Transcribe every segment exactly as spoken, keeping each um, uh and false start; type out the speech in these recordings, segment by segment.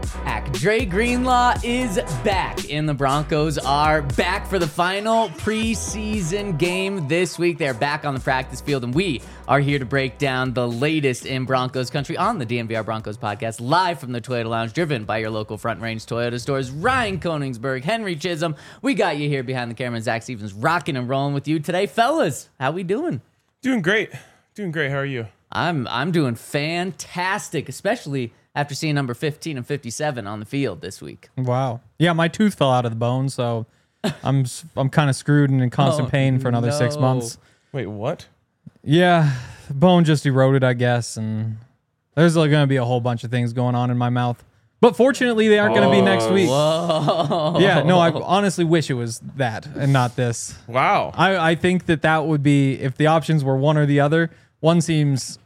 back. Dre Greenlaw is back, and the Broncos are back for the final preseason game this week. They're back on the practice field, and we are here to break down the latest in Broncos country on the D N V R Broncos podcast, live from the Toyota Lounge, driven by your local Front Range Toyota stores. Ryan Koenigsberg, Henry Chisholm, we got you here behind the camera. Zach Stevens rocking and rolling with you today. Fellas, how we doing? Doing great. Doing great. How are you? I'm I'm doing fantastic, especially after seeing number fifteen and fifty-seven on the field this week. Wow. Yeah, my tooth fell out of the bone, so I'm s- I'm kind of screwed and in constant Oh, pain for another no. six months. Wait, what? Yeah, the bone just eroded, I guess, and there's like, going to be a whole bunch of things going on in my mouth. But fortunately, they aren't going to be next week. Whoa. Yeah, no, I honestly wish it was that and not this. Wow. I, I think that that would be, if the options were one or the other, one seems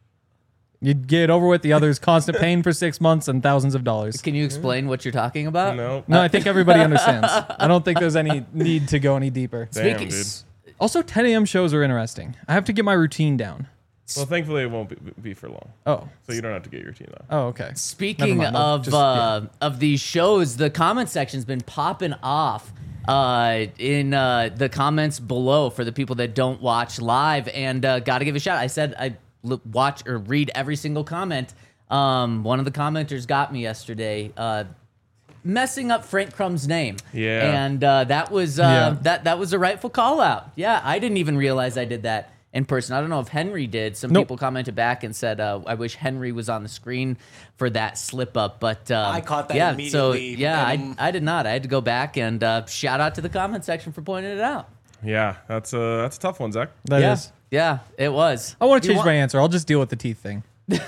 you'd get it over with, the other is constant pain for six months and thousands of dollars. Can you explain what you're talking about? No. No, I think everybody understands. I don't think there's any need to go any deeper. Damn, Speaking, dude. Also, ten a.m. shows are interesting. I have to get my routine down. Well, thankfully it won't be, be for long, Oh, so you don't have to get your routine though. oh, okay. Speaking Never mind. I'll of just- uh, of these shows, the comment section's been popping off uh, in uh, the comments below for the people that don't watch live, and uh, got to give a shout. I said I look, watch or read every single comment. Um, one of the commenters got me yesterday, uh, messing up Frank Crumb's name. Yeah. and uh, that was uh, Yeah. that that was a rightful call out. Yeah, I didn't even realize I did that in person. I don't know if Henry did. Some Nope. people commented back and said, uh, I wish Henry was on the screen for that slip up. But um, I caught that yeah, immediately, So, yeah, I, and- I did not. I had to go back and uh, shout out to the comment section for pointing it out. Yeah, that's a that's a tough one, Zach. That yeah, is. yeah, it was. I want to You change want- my answer. I'll just deal with the teeth thing.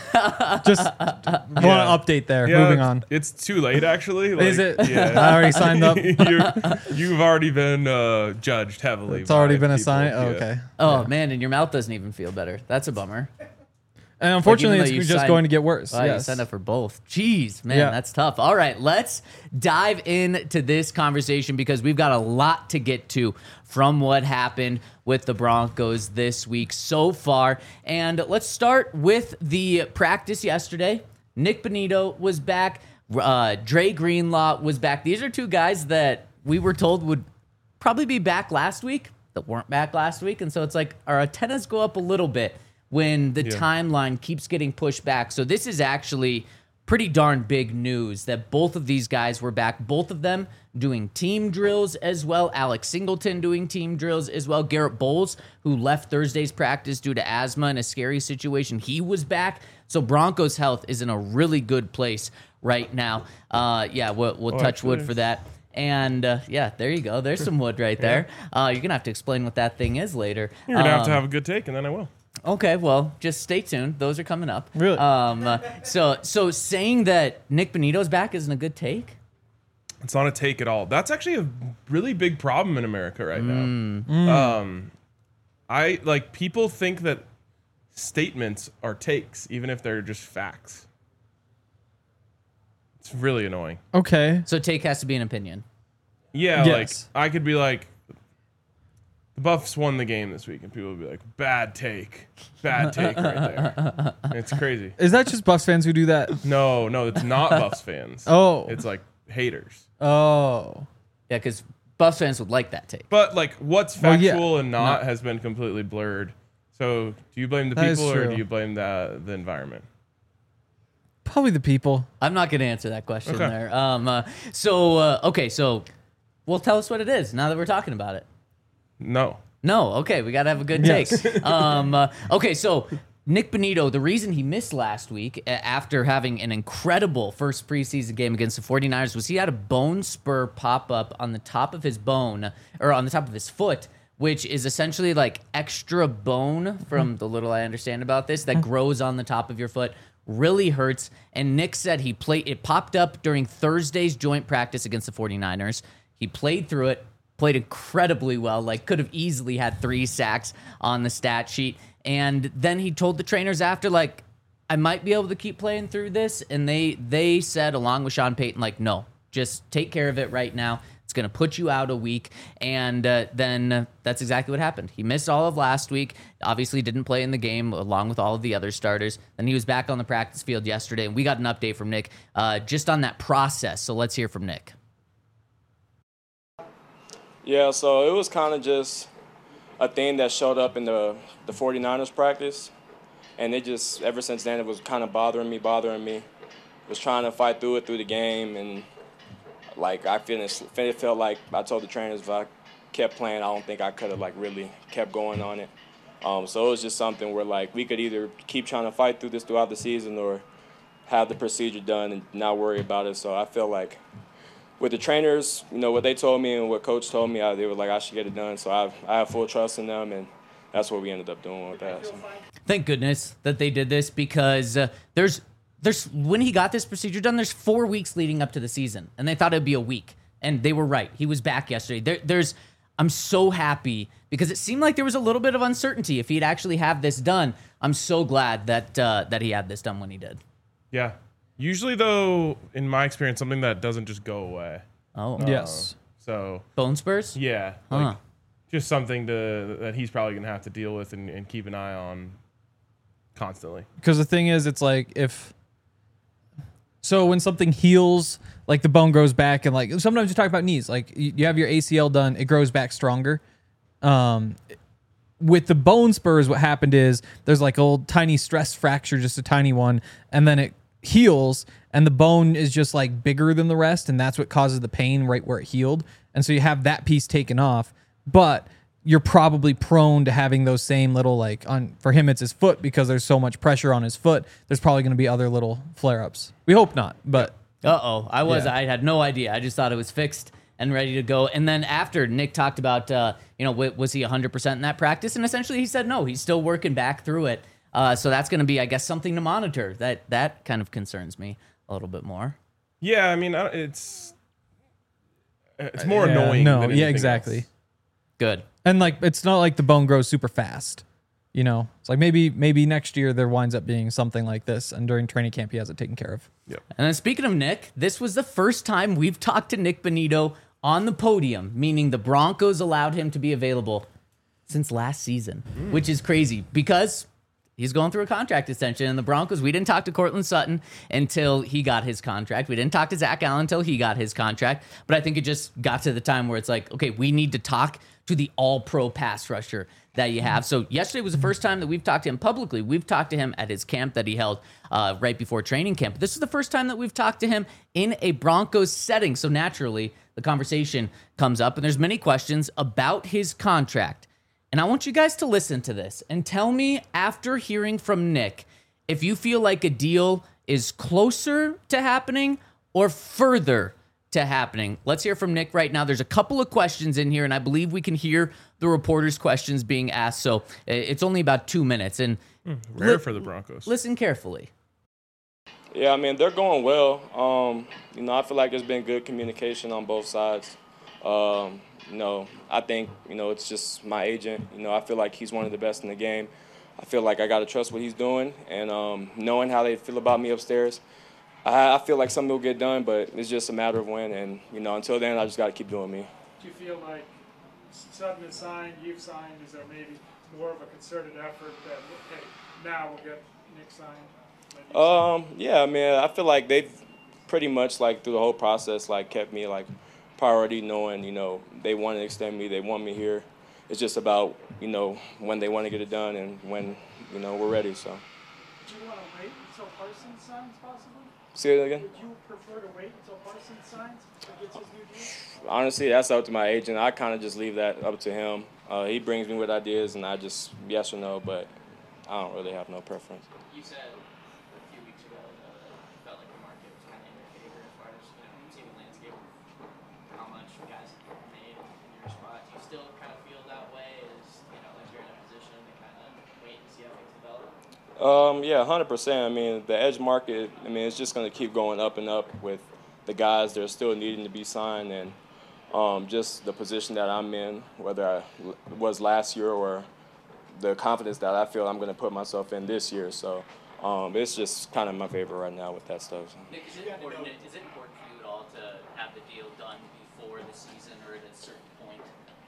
Just want to update there. Yeah, Moving on. It's too late, actually. Like, Is it? Yeah. I already signed up. You're, you've already been uh, judged heavily. It's already by been people. assigned. Oh, Yeah. okay. Oh, man, and your mouth doesn't even feel better. That's a bummer. And unfortunately, though it's you just signed- going to get worse. Wow, you yes. signed up for both. Jeez, man, Yeah. that's tough. All right, let's dive into this conversation because we've got a lot to get to from what happened with the Broncos this week so far. And let's start with the practice yesterday. Nick Bonitto was back. Uh, Dre Greenlaw was back. These are two guys that we were told would probably be back last week that weren't back last week. And so it's like our antennas go up a little bit when the Yeah. timeline keeps getting pushed back. So this is actually pretty darn big news that both of these guys were back. Both of them doing team drills as well. Alex Singleton doing team drills as well. Garrett Bowles, who left Thursday's practice due to asthma and a scary situation, he was back. So Broncos health is in a really good place right now. Uh, yeah, we'll, we'll Oh, touch wood actually- for that. And uh, yeah, there you go. There's some wood right there. Uh, you're going to have to explain what that thing is later. You're gonna have to Um, have a good take, and then I will. Okay, well, just stay tuned. Those are coming up. Really? Um, uh, so, so saying that Nick Bonitto's back isn't a good take. It's not a take at all. That's actually a really big problem in America right Mm. now. Um, I like people think that statements are takes, even if they're just facts. It's really annoying. Okay. So take has to be an opinion. Yeah, Yes. like I could be like, the Buffs won the game this week, and people would be like, bad take, bad take right there. And it's crazy. Is that just Buffs fans who do that? No, no, it's not Buffs fans. Oh. It's like haters. Oh. Yeah, because Buffs fans would like that take. But like, what's Well, yeah. factual and not No. has been completely blurred. So, do you blame the That is people or true. do you blame the the environment? Probably the people. I'm not going to answer that question Okay. there. Um, uh, so, uh, okay, so, well, tell us what it is now that we're talking about it. No. No, okay, we got to have a good Yes. take. um, uh, okay, so Nick Bonitto, the reason he missed last week a- after having an incredible first preseason game against the 49ers was he had a bone spur pop up on the top of his bone, or on the top of his foot, which is essentially like extra bone from the little I understand about this that grows on the top of your foot. Really hurts. And Nick said he played, it popped up during Thursday's joint practice against the 49ers. He played through it, played incredibly well, like could have easily had three sacks on the stat sheet. And then he told the trainers after, like, I might be able to keep playing through this. And they they said, along with Sean Payton, like, no, just take care of it right now. It's going to put you out a week. And uh, then uh, that's exactly what happened. He missed all of last week, obviously didn't play in the game along with all of the other starters. Then he was back on the practice field yesterday, and we got an update from Nick uh, just on that process. So let's hear from Nick. Yeah, so it was kind of just a thing that showed up in the, the 49ers practice. And it just, ever since then, it was kind of bothering me, bothering me. Was trying to fight through it through the game, and like I finished, it felt like I told the trainers if I kept playing, I don't think I could have like really kept going on it. Um, so it was just something where like we could either keep trying to fight through this throughout the season or have the procedure done and not worry about it. So I feel like with the trainers, you know, what they told me and what coach told me, I, they were like I should get it done. So I, I have full trust in them, and that's what we ended up doing with that. So. Thank goodness that they did this, because uh, there's there's when he got this procedure done, there's four weeks leading up to the season, and they thought it'd be a week, and they were right. He was back yesterday. There, there's I'm so happy because it seemed like there was a little bit of uncertainty if he'd actually have this done. I'm so glad that uh, that he had this done when he did. Yeah. Usually, though, in my experience, something that doesn't just go away. Oh, Yes. So bone spurs. yeah, Huh. like just something to that he's probably gonna have to deal with and, and keep an eye on constantly. Because the thing is, it's like if so when something heals, like the bone grows back, and like sometimes you talk about knees, like you you have your A C L done, it grows back stronger. Um, with the bone spurs, what happened is there's like a little tiny stress fracture, just a tiny one, and then it heals, and the bone is just like bigger than the rest, and that's what causes the pain right where it healed. And so you have that piece taken off, but you're probably prone to having those same little, like on for him it's his foot, because there's so much pressure on his foot, there's probably going to be other little flare-ups. We hope not, but Uh-oh. I was, Yeah. I had no idea. I just thought it was fixed and ready to go. And then after Nick talked about, uh, you know, w- was he one hundred percent in that practice? And essentially he said, no, he's still working back through it. Uh, so that's going to be, I guess, something to monitor. That, that kind of concerns me a little bit more. Yeah, I mean, I- it's it's more Yeah, annoying. no, than yeah, anything exactly. else. Good. and like it's not like the bone grows super fast. You know, it's like maybe maybe next year there winds up being something like this, and during training camp he has it taken care of. Yep. And then speaking of Nick, this was the first time we've talked to Nick Bonito on the podium, meaning the Broncos allowed him to be available since last season, mm. which is crazy because he's going through a contract extension. And the Broncos, we didn't talk to Cortland Sutton until he got his contract. We didn't talk to Zach Allen until he got his contract. But I think it just got to the time where it's like, okay, we need to talk to the all-pro pass rusher that you have. So yesterday was the first time that we've talked to him publicly. We've talked to him at his camp that he held uh, right before training camp. But this is the first time that we've talked to him in a Broncos setting. So naturally, the conversation comes up, and there's many questions about his contract. And I want you guys to listen to this and tell me, after hearing from Nick, if you feel like a deal is closer to happening or further to happening. Let's hear from Nick right now. There's a couple of questions in here, and I believe we can hear the reporters' questions being asked. So it's only about two minutes. And Rare li- for the Broncos. Listen carefully. Yeah, I mean, they're going well. Um, you know, I feel like there's been good communication on both sides. Um, you know, I think, you know, it's just my agent. You know, I feel like he's one of the best in the game. I feel like I got to trust what he's doing. And um, knowing how they feel about me upstairs, I, I feel like something will get done, but it's just a matter of when. And, you know, until then, I just got to keep doing me. Do you feel like Sutton is signed, you've signed, is there maybe more of a concerted effort that, hey, now we'll get Nick signed? maybe Um, yeah, I mean, I feel like they've pretty much, like, through the whole process, like, kept me, like, priority, knowing, you know, they want to extend me, they want me here. It's just about, you know, when they want to get it done and when, you know, we're ready, so. Do you want to wait until Parsons signs, possibly? Say it again? Would you prefer to wait until Parsons signs or gets his new deal? Honestly, that's up to my agent. I kind of just leave that up to him. Uh, he brings me with ideas, and I just yes or no, but I don't really have no preference. You said a few weeks ago that it felt like the market was kind of in your favor as far as, you know, seeing the landscape of how much you guys have made in your spot. Do you still kind of feel that way as, you know, like you're in a position to kind of wait and see how things develop? Um, yeah, one hundred percent. I mean, the edge market, I mean, it's just going to keep going up and up with the guys that are still needing to be signed, and um, just the position that I'm in, whether I l- was last year or the confidence that I feel I'm going to put myself in this year. So um, it's just kind of my favor right now with that stuff. Nick, is it important, is it important for you at all to have the deal done before the season or at a certain point?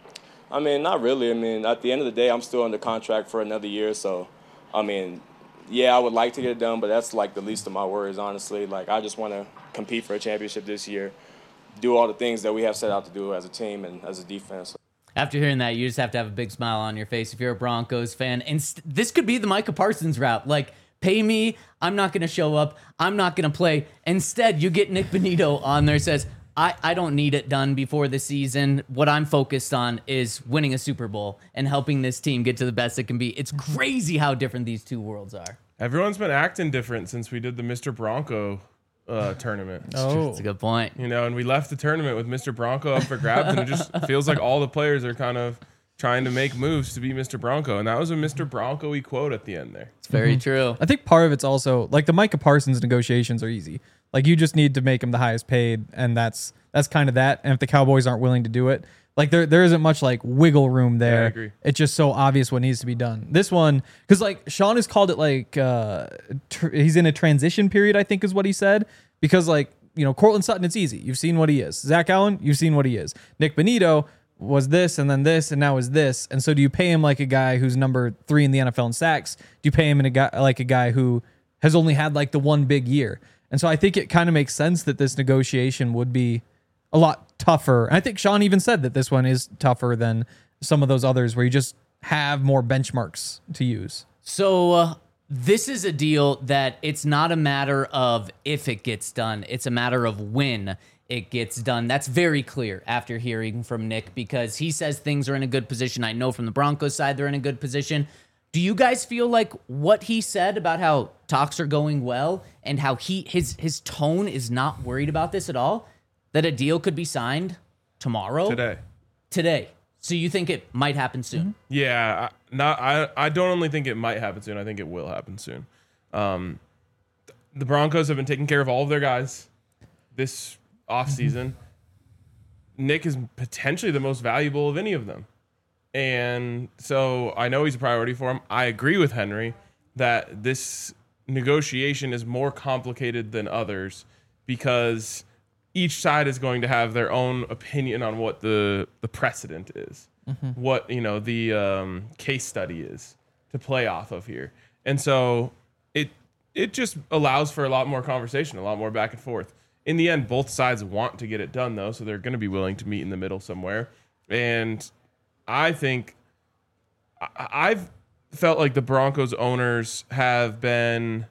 I mean, not really. I mean, at the end of the day, I'm still under contract for another year. So, I mean, yeah, I would like to get it done, but that's like the least of my worries, honestly. Like, I just want to compete for a championship this year, do all the things that we have set out to do as a team and as a defense. After hearing that, you just have to have a big smile on your face if you're a Broncos fan. And st- this could be the Micah Parsons route. Like, pay me, I'm not going to show up, I'm not going to play. Instead, you get Nick Bonitto on there says, I, I don't need it done before the season. What I'm focused on is winning a Super Bowl and helping this team get to the best it can be. It's crazy how different these two worlds are. Everyone's been acting different since we did the Mister Bronco uh, tournament. Oh, That's a good point. You know, and we left the tournament with Mister Bronco up for grabs, and it just feels like all the players are kind of trying to make moves to be Mister Bronco. And that was a Mister Bronco-y quote at the end there. It's very true. I think part of it's also like the Micah Parsons negotiations are easy. Like you just need to make him the highest paid, and that's that's kind of that. And if the Cowboys aren't willing to do it, like there there isn't much like wiggle room there. Yeah, I agree. It's just so obvious what needs to be done. This one, because like Sean has called it like uh, tr- he's in a transition period, I think is what he said. Because like you know, Cortland Sutton, it's easy. You've seen what he is. Zach Allen, you've seen what he is. Nick Bonitto was this and then this and now is this. And so do you pay him like a guy who's number three in the N F L in sacks? Do you pay him in a guy like a guy who has only had like the one big year? And so I think it kind of makes sense that this negotiation would be a lot tougher. And I think Sean even said that this one is tougher than some of those others where you just have more benchmarks to use. So uh, this is a deal that it's not a matter of if it gets done. It's a matter of when it gets done. That's very clear after hearing from Nick because he says things are in a good position. I know from the Broncos side they're in a good position. Do you guys feel like what he said about how talks are going well and how he his his tone is not worried about this at all, that a deal could be signed tomorrow? Today. Today. So you think it might happen soon? Yeah, I, not I. I don't only think it might happen soon. I think it will happen soon. Um, the Broncos have been taking care of all of their guys this offseason. Nick is potentially the most valuable of any of them. And so I know he's a priority for him. I agree with Henry that this negotiation is more complicated than others because each side is going to have their own opinion on what the, the precedent is, mm-hmm. what, you know, the um, case study is to play off of here. And so it it just allows for a lot more conversation, a lot more back and forth. In the end, both sides want to get it done, though, so they're going to be willing to meet in the middle somewhere. And I think I- I've felt like the Broncos owners have been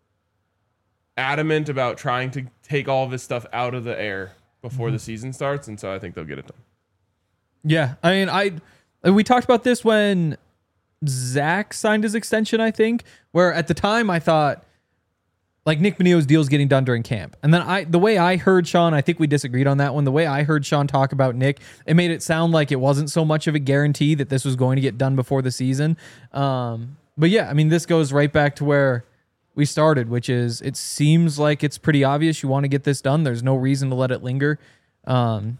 adamant about trying to take all of this stuff out of the air before mm-hmm. the season starts, and so I think they'll get it done. Yeah, I mean, I we talked about this when Zach signed his extension, I think, where at the time I thought like Nick Bonitto's deal is getting done during camp. And then I, the way I heard Sean, I think we disagreed on that one. The way I heard Sean talk about Nick, it made it sound like it wasn't so much of a guarantee that this was going to get done before the season. Um, but yeah, I mean, this goes right back to where we started, which is it seems like it's pretty obvious you want to get this done. There's no reason to let it linger. Um,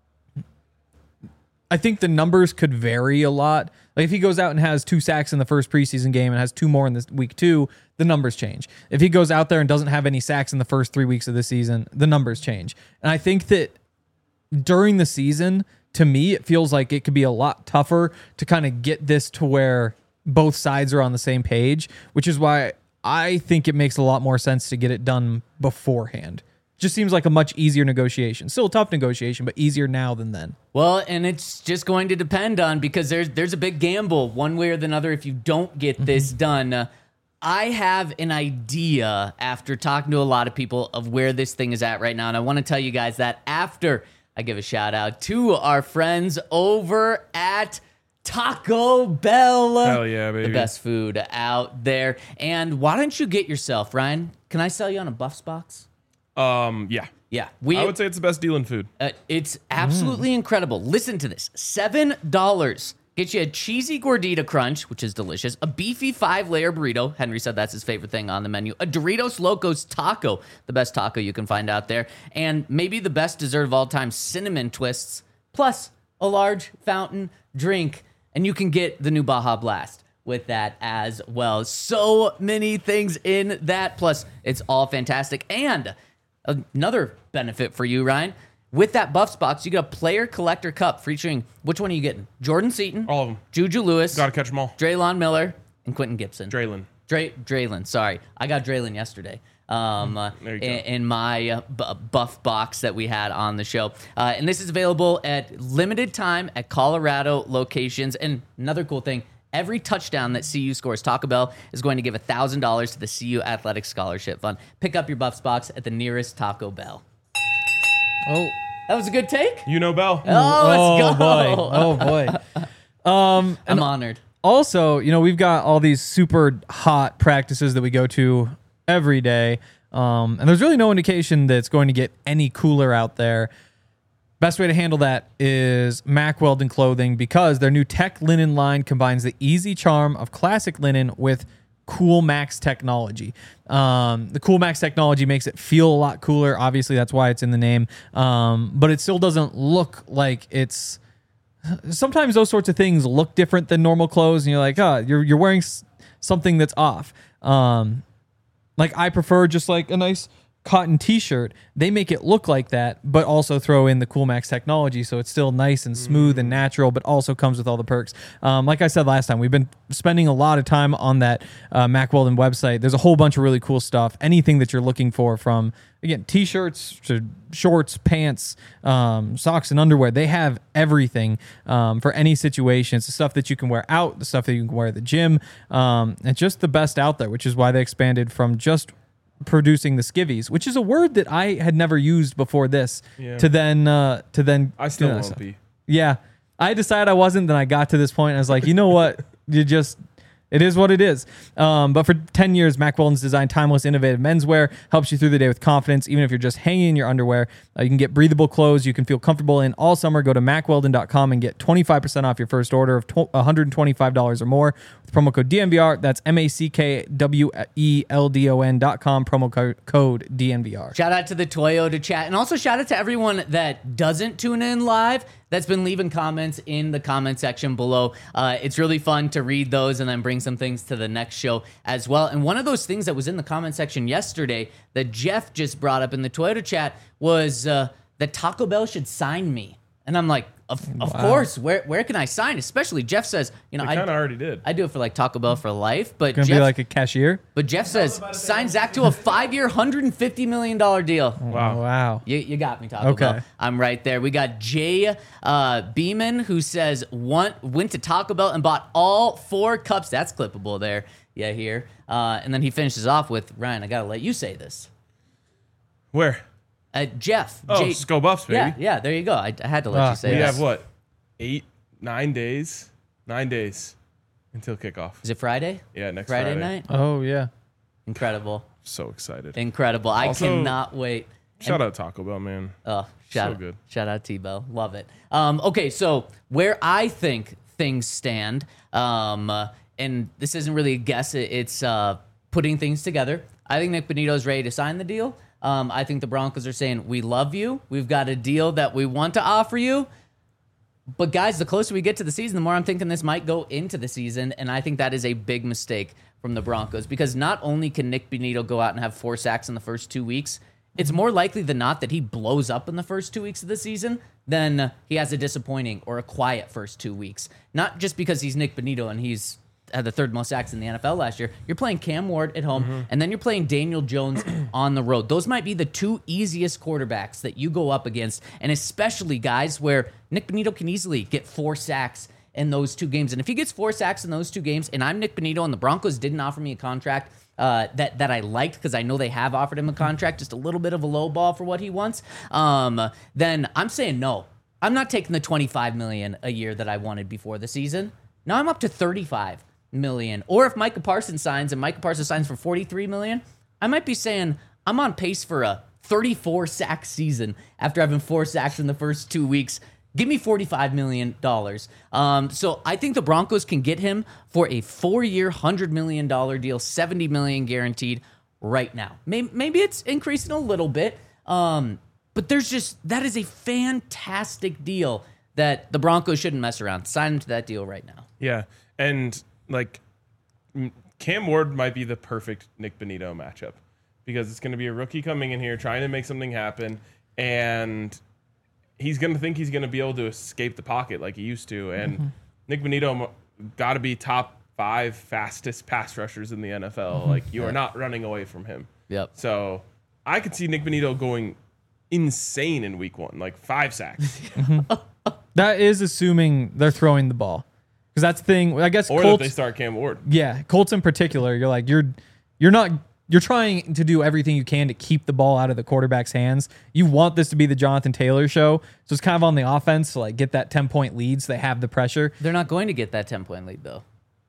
I think the numbers could vary a lot. Like if he goes out and has two sacks in the first preseason game and has two more in this week two, the numbers change. If he goes out there and doesn't have any sacks in the first three weeks of the season, the numbers change. And I think that during the season, to me, it feels like it could be a lot tougher to kind of get this to where both sides are on the same page, which is why I think it makes a lot more sense to get it done beforehand. Just seems like a much easier negotiation. Still a tough negotiation, but easier now than then. Well, and it's just going to depend on because there's there's a big gamble one way or the other if you don't get mm-hmm. this done. Uh, I have an idea after talking to a lot of people of where this thing is at right now, and I want to tell you guys that after I give a shout out to our friends over at Taco Bell. Hell yeah, baby. The best food out there. And why don't you get yourself, Ryan? Can I sell you on a Buffs box? Um, yeah. Yeah. We, I would say it's the best deal in food. Uh, it's absolutely mm. incredible. Listen to this. seven dollars gets you a cheesy gordita crunch, which is delicious, a beefy five-layer burrito. Henry said that's his favorite thing on the menu. A Doritos Locos taco, the best taco you can find out there. And maybe the best dessert of all time, cinnamon twists, plus a large fountain drink. And you can get the new Baja Blast with that as well. So many things in that. Plus, it's all fantastic. And another benefit for you, Ryan, with that Buffs box, you get a player collector cup featuring, which one are you getting? Jordan Seaton, All of them. Juju Lewis, Got to catch them all. Draylon Miller, and Quentin Gibson. Draylon. Dray, Draylon, sorry. I got Draylon yesterday. Um, uh, There you in, go. in my uh, b- buff box that we had on the show. Uh, and this is available at limited time at Colorado locations. And another cool thing, every touchdown that C U scores, Taco Bell is going to give one thousand dollars to the C U Athletic Scholarship Fund. Pick up your Buffs box at the nearest Taco Bell. Oh, That was a good take. You know Bell. Oh, let's oh go. boy. Oh boy. Um, I'm honored. also, you know, we've got all these super hot practices that we go to every day. Um, and there's really no indication that it's going to get any cooler out there. Best way to handle that is Mack Weldon Clothing, because their new Tech Linen line combines the easy charm of classic linen with Cool Max technology. Um, the Cool Max technology makes it feel a lot cooler. Obviously, that's why it's in the name. Um, but it still doesn't look like it's... Sometimes those sorts of things look different than normal clothes, and you're like, oh, you're you're wearing s- something that's off. Um, like I prefer just like a nice cotton t-shirt. They make it look like that, but also throw in the Cool Max technology, so it's still nice and smooth and natural, but also comes with all the perks. Um, like I said last time, we've been spending a lot of time on that uh, Mack Weldon website. There's a whole bunch of really cool stuff. Anything that you're looking for, from again t-shirts to shorts, pants, um, socks, and underwear. They have everything um, for any situation. It's the stuff that you can wear out, the stuff that you can wear at the gym. Um, it's just the best out there, which is why they expanded from just producing the skivvies, which is a word that I had never used before this, Yeah. to then uh, to then I still do that won't stuff. be. Yeah, I decided I wasn't. Then I got to this point, and I was like, you know what? You just, it is what it is. Um, but for ten years, Mack Weldon's designed timeless, innovative menswear, helps you through the day with confidence, even if you're just hanging in your underwear. Uh, you can get breathable clothes you can feel comfortable in all summer. Go to mack weldon dot com and get twenty-five percent off your first order of one hundred twenty-five dollars or more with promo code D N V R. That's M A C K W E L D O N dot com, promo co- code D N V R. Shout out to the Toyota chat, and also shout out to everyone that doesn't tune in live, that's been leaving comments in the comment section below. Uh, it's really fun to read those and then bring some things to the next show as well. And one of those things that was in the comment section yesterday that Jeff just brought up in the Toyota chat was uh, that Taco Bell should sign me. And I'm like, of, of course, where where can I sign? Especially Jeff says, you know, They kind of I, already did. I do it for like Taco Bell for life, but Gonna Jeff, be like a cashier. but Jeff says, sign Zach to a five-year, one hundred fifty million dollars deal. Wow. Wow. You, you got me, Taco Okay. Bell. I'm right there. We got Jay uh, Beeman, who says want, went to Taco Bell and bought all four cups. That's clippable there. Yeah, here. Uh, and then he finishes off with, Ryan, I got to let you say this. Where? Uh, Jeff. Oh, Jay, Skull Buffs, baby. yeah, yeah, there you go. I, I had to let Ah, you say We that. have what? Eight, nine days? Nine days until kickoff. Is it Friday? Yeah, next Friday, Friday. night? Oh yeah. Incredible. So excited. Incredible. I Also, cannot wait. Shout out Taco Bell, man. Oh, shout So out, good. shout out T-Bell. Love it. Um, okay, so where I think things stand, um, uh, and this isn't really a guess, it- it's uh, putting things together. I think Nick Benito's ready to sign the deal. Um, I think the Broncos are saying, we love you. We've got a deal that we want to offer you. But guys, the closer we get to the season, the more I'm thinking this might go into the season, and I think that is a big mistake from the Broncos, because not only can Nick Benito go out and have four sacks in the first two weeks, it's more likely than not that he blows up in the first two weeks of the season than he has a disappointing or a quiet first two weeks. Not just because he's Nick Benito and he's had the third most sacks in the N F L last year. You're playing Cam Ward at home, and then you're playing Daniel Jones on the road. Those might be the two easiest quarterbacks that you go up against, and especially guys where Nick Benito can easily get four sacks in those two games. And if he gets four sacks in those two games, and I'm Nick Benito and the Broncos didn't offer me a contract uh, that that I liked, because I know they have offered him a contract, just a little bit of a low ball for what he wants, um, then I'm saying no. I'm not taking the twenty-five million dollars a year that I wanted before the season. Now I'm up to thirty-five million. Or if Micah Parsons signs and Micah Parsons signs for forty-three million, I might be saying I'm on pace for a thirty-four sack season after having four sacks in the first two weeks. Give me forty-five million dollars. Um, so I think the Broncos can get him for a four-year, one hundred million dollars deal, seventy million dollars guaranteed right now. Maybe, maybe it's increasing a little bit, um, but there's just, that is a fantastic deal that the Broncos shouldn't mess around. Sign him to that deal right now. Yeah. And like m- Cam Ward might be the perfect Nick Benito matchup, because it's going to be a rookie coming in here trying to make something happen. And he's going to think he's going to be able to escape the pocket like he used to. And mm-hmm. Nick Bonitto got to be top five fastest pass rushers in the N F L. Mm-hmm. Like, you yeah. are not running away from him. Yep. So I could see Nick Bonitto going insane in week one, like five sacks. mm-hmm. That is assuming they're throwing the ball. Because that's the thing, I guess. Or Colts, that they start Cam Ward. Yeah, Colts in particular, you're like, you're you're not, you're trying to do everything you can to keep the ball out of the quarterback's hands. You want this to be the Jonathan Taylor show. So it's kind of on the offense to like get that ten-point lead so they have the pressure. They're not going to get that ten-point lead, though.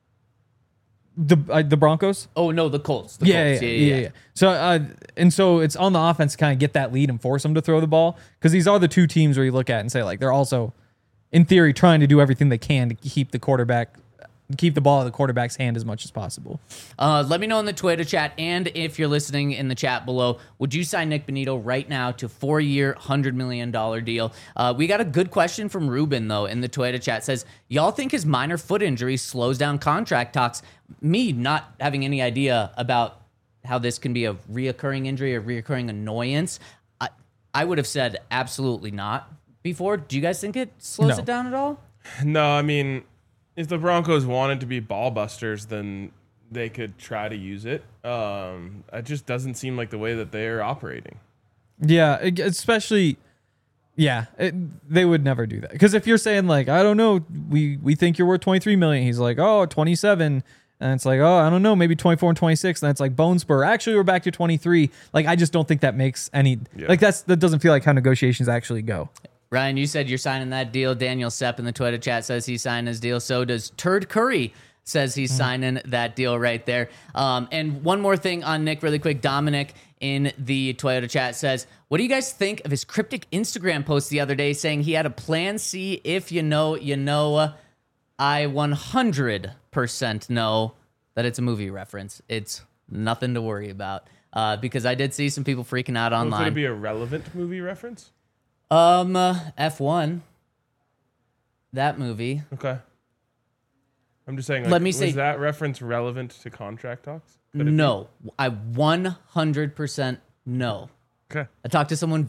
The uh, the Broncos? Oh, no, the Colts. The yeah, Colts. Yeah, yeah, yeah, yeah, yeah. So, uh, and so it's on the offense to kind of get that lead and force them to throw the ball. Because these are the two teams where you look at and say, like, they're also, in theory, trying to do everything they can to keep the quarterback, keep the ball in the quarterback's hand as much as possible. Uh, let me know in the Twitter chat, and if you're listening in the chat below, would you sign Nick Bonitto right now to four-year, one hundred million dollars deal? Uh, we got a good question from Ruben, though, in the Twitter chat. Says, y'all think his minor foot injury slows down contract talks? Me not having any idea about how this can be a reoccurring injury or reoccurring annoyance, I, I would have said absolutely not before. Do you guys think it slows No. it down at all? No, I mean, if the Broncos wanted to be ball busters, then they could try to use it. Um, it just doesn't seem like the way that they're operating. Yeah, it- especially, yeah, it, they would never do that. Because if you're saying like, I don't know, we we think you're worth twenty-three million dollars, he's like, oh, twenty-seven, and it's like, oh, I don't know, maybe twenty-four and twenty-six, and it's like bone spur. Actually, we're back to twenty-three. Like, I just don't think that makes any Yeah. like that's that doesn't feel like how negotiations actually go. Ryan, you said you're signing that deal. Daniel Sepp in the Twitter chat says he's signing his deal. So does Turd Curry says he's mm. signing that deal right there. Um, and one more thing on Nick really quick. Dominic in the Toyota chat says, what do you guys think of his cryptic Instagram post the other day saying he had a plan C? If you know, you know. I one hundred percent know that it's a movie reference. It's nothing to worry about uh, because I did see some people freaking out online. Could it be a relevant movie reference? Um, uh, F one, that movie. Okay. I'm just saying, like, Let me was say- that reference relevant to contract talks? Could it be? No, I one hundred percent no. Okay. I talked to someone.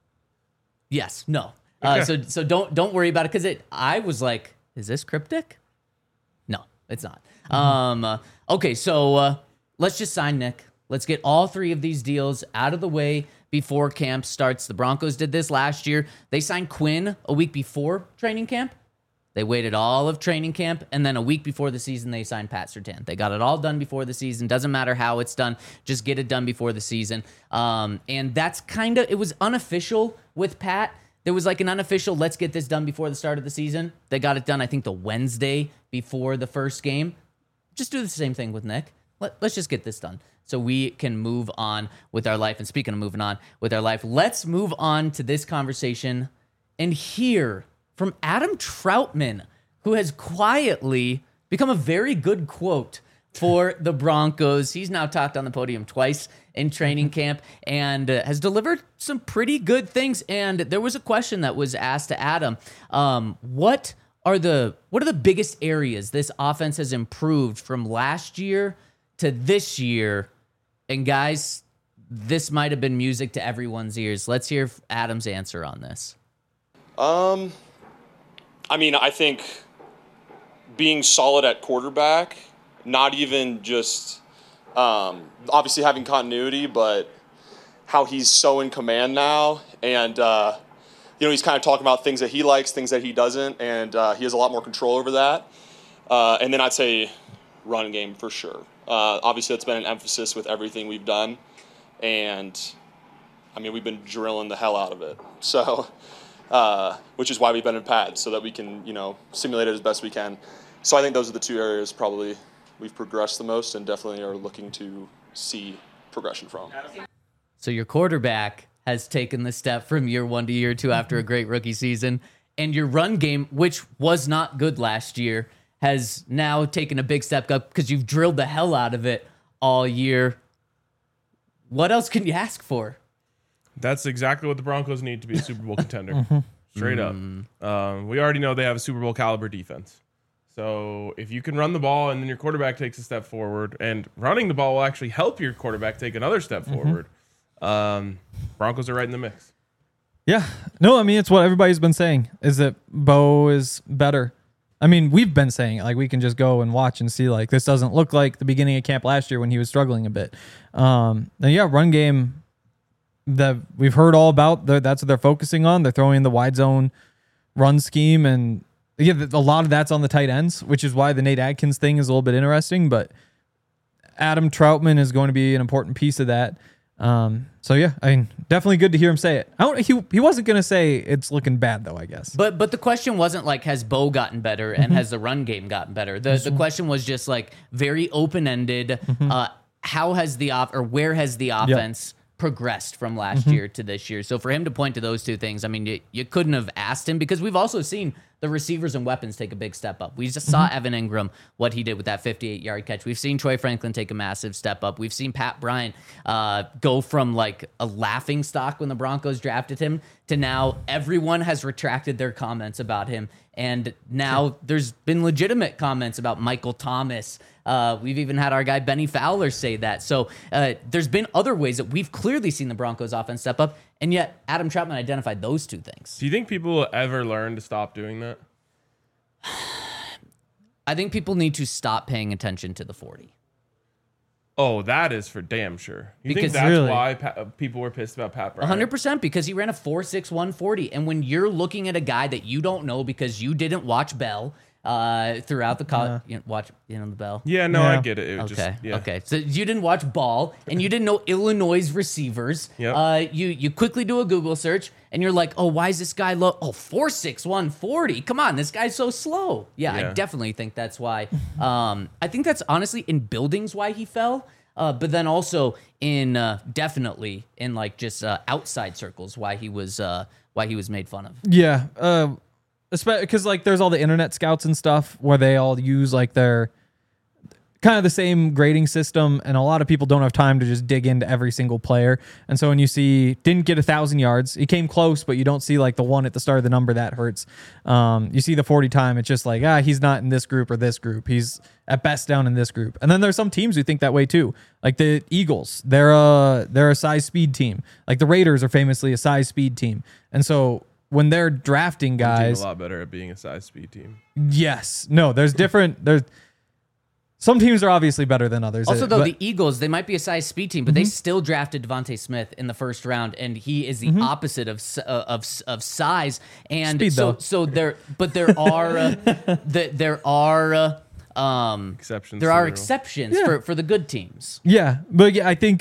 Yes, no. Uh, Okay. so so don't don't worry about it because it. I was like, is this cryptic? No, it's not. Mm-hmm. Um. uh, okay, so uh, let's just sign Nick. Let's get all three of these deals out of the way before camp starts. The Broncos did this last year. They signed Quinn a week before training camp. They waited all of training camp, and then a week before the season, they signed Pat Surtain. They got it all done before the season. Doesn't matter how it's done. Just get it done before the season. Um, and that's kind of, it was unofficial with Pat. There was like an unofficial, let's get this done before the start of the season. They got it done, I think, the Wednesday before the first game. Just do the same thing with Nick. Let, let's just get this done so we can move on with our life. And speaking of moving on with our life, let's move on to this conversation and hear from Adam Troutman, who has quietly become a very good quote for the Broncos. He's now talked on the podium twice in training camp and uh, has delivered some pretty good things. And there was a question that was asked to Adam. Um, what are the what are the biggest areas this offense has improved from last year to this year? And guys, this might have been music to everyone's ears. Let's hear Adam's answer on this. Um, I mean, I think being solid at quarterback, not even just um, obviously having continuity, but how he's so in command now. And, uh, you know, he's kind of talking about things that he likes, things that he doesn't, and uh, he has a lot more control over that. Uh, and then I'd say run game for sure. Uh, obviously, that's been an emphasis with everything we've done. And, I mean, we've been drilling the hell out of it. So... Uh, which is why we've been in pads, so that we can, you know, simulate it as best we can. So I think those are the two areas probably we've progressed the most and definitely are looking to see progression from. So your quarterback has taken the step from year one to year two after a great rookie season, and your run game, which was not good last year, has now taken a big step up because you've drilled the hell out of it all year. What else can you ask for? That's exactly what the Broncos need to be a Super Bowl contender. Straight up. Um, we already know they have a Super Bowl caliber defense. So if you can run the ball and then your quarterback takes a step forward, and running the ball will actually help your quarterback take another step forward, um, Broncos are right in the mix. Yeah. No, I mean, it's what everybody's been saying is that Bo is better. I mean, we've been saying it, like we can just go and watch and see like this doesn't look like the beginning of camp last year when he was struggling a bit. Um, and yeah, run game that we've heard all about. That's what they're focusing on. They're throwing the wide zone run scheme, and yeah, a lot of that's on the tight ends, which is why the Nate Adkins thing is a little bit interesting. But Adam Troutman is going to be an important piece of that. Um, so yeah, I mean, definitely good to hear him say it. I don't, he he wasn't gonna say it's looking bad though, I guess. But but the question wasn't like has Bo gotten better and Mm-hmm. has the run game gotten better. The the question was just like very open ended. Mm-hmm. Uh, how has the off or where has the offense progressed from last Mm-hmm. year to this year? So for him to point to those two things, I mean, you, you couldn't have asked him because we've also seen the receivers and weapons take a big step up. We just saw Mm-hmm. Evan Ingram, what he did with that fifty-eight yard catch. We've seen Troy Franklin take a massive step up. We've seen Pat Bryant uh, go from like a laughing stock when the Broncos drafted him to now everyone has retracted their comments about him. And now there's been legitimate comments about Michael Thomas. Uh, we've even had our guy Benny Fowler say that. So uh, there's been other ways that we've clearly seen the Broncos offense step up. And yet Adam Troutman identified those two things. Do you think people will ever learn to stop doing that? I think people need to stop paying attention to the forty. Oh, that is for damn sure. You Because think that's really- why pa- uh, people were pissed about Pat Bryant? one hundred percent because he ran a four six one forty. And when you're looking at a guy that you don't know because you didn't watch Bell uh, throughout the college, you know, watch you know the Bell. Yeah, no, I Yeah. get it. It was Okay. just, yeah. Okay. So you didn't watch ball and you didn't know Illinois' receivers. Yep. Uh, you you quickly do a Google search and you're like, oh, why is this guy low? Oh, four six one forty. Come on, this guy's so slow. Yeah, I Yeah. definitely think that's why. Um, I think that's honestly in buildings why he fell. Uh, but then also in uh, definitely in like just uh, outside circles why he was uh, why he was made fun of. Yeah, uh, because like there's all the internet scouts and stuff where they all use like their kind of the same grading system, and a lot of people don't have time to just dig into every single player. And so when you see didn't get a thousand yards, he came close, but you don't see like the one at the start of the number that hurts. Um, you see the forty time, it's just like ah, he's not in this group or this group. He's at best down in this group. And then there's some teams who think that way too, like the Eagles. They're a they're a size speed team. Like the Raiders are famously a size speed team, and so when they're drafting One team guys, a lot better at being a size speed team. yes, no, there's different there's. Some teams are obviously better than others. Also, uh, though, but- the Eagles, they might be a size speed team, but they still drafted Devontae Smith in the first round, and he is the opposite of s- uh, of s- of size. And Speed, so, though. so there, but there are uh, the, there are uh, um, Exceptions There to are the rule. exceptions Yeah. for for the good teams. Yeah, but yeah, I think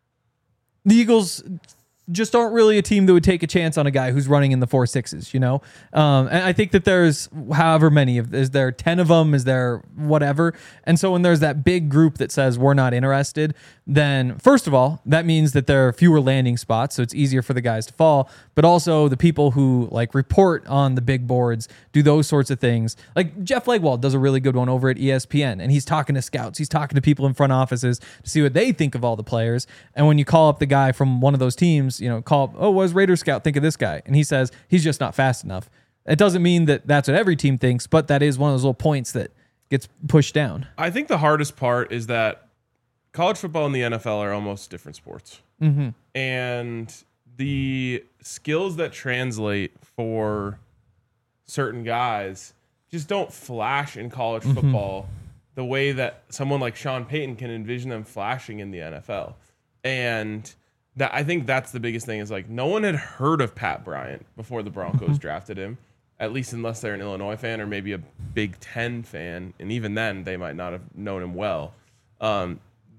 the Eagles just aren't really a team that would take a chance on a guy who's running in the four sixes, you know? Um, and I think that there's however many of, is there ten of them? Is there whatever? And so when there's that big group that says we're not interested, then first of all, that means that there are fewer landing spots. So it's easier for the guys to fall, but also the people who like report on the big boards, do those sorts of things. Like Jeff Legwald does a really good one over at E S P N, and he's talking to scouts. He's talking to people in front offices to see what they think of all the players. And when you call up the guy from one of those teams, you know, call up, oh, what does Raider Scout think of this guy? And he says, he's just not fast enough. It doesn't mean that that's what every team thinks, but that is one of those little points that gets pushed down. I think the hardest part is that college football and the N F L are almost different sports. Mm-hmm. And the skills that translate for certain guys just don't flash in college Mm-hmm. football the way that someone like Sean Payton can envision them flashing in the N F L. And that I think that's the biggest thing is like no one had heard of Pat Bryant before the Broncos Mm-hmm. drafted him, at least unless they're an Illinois fan or maybe a Big Ten fan. And even then, they might not have known him well. Um,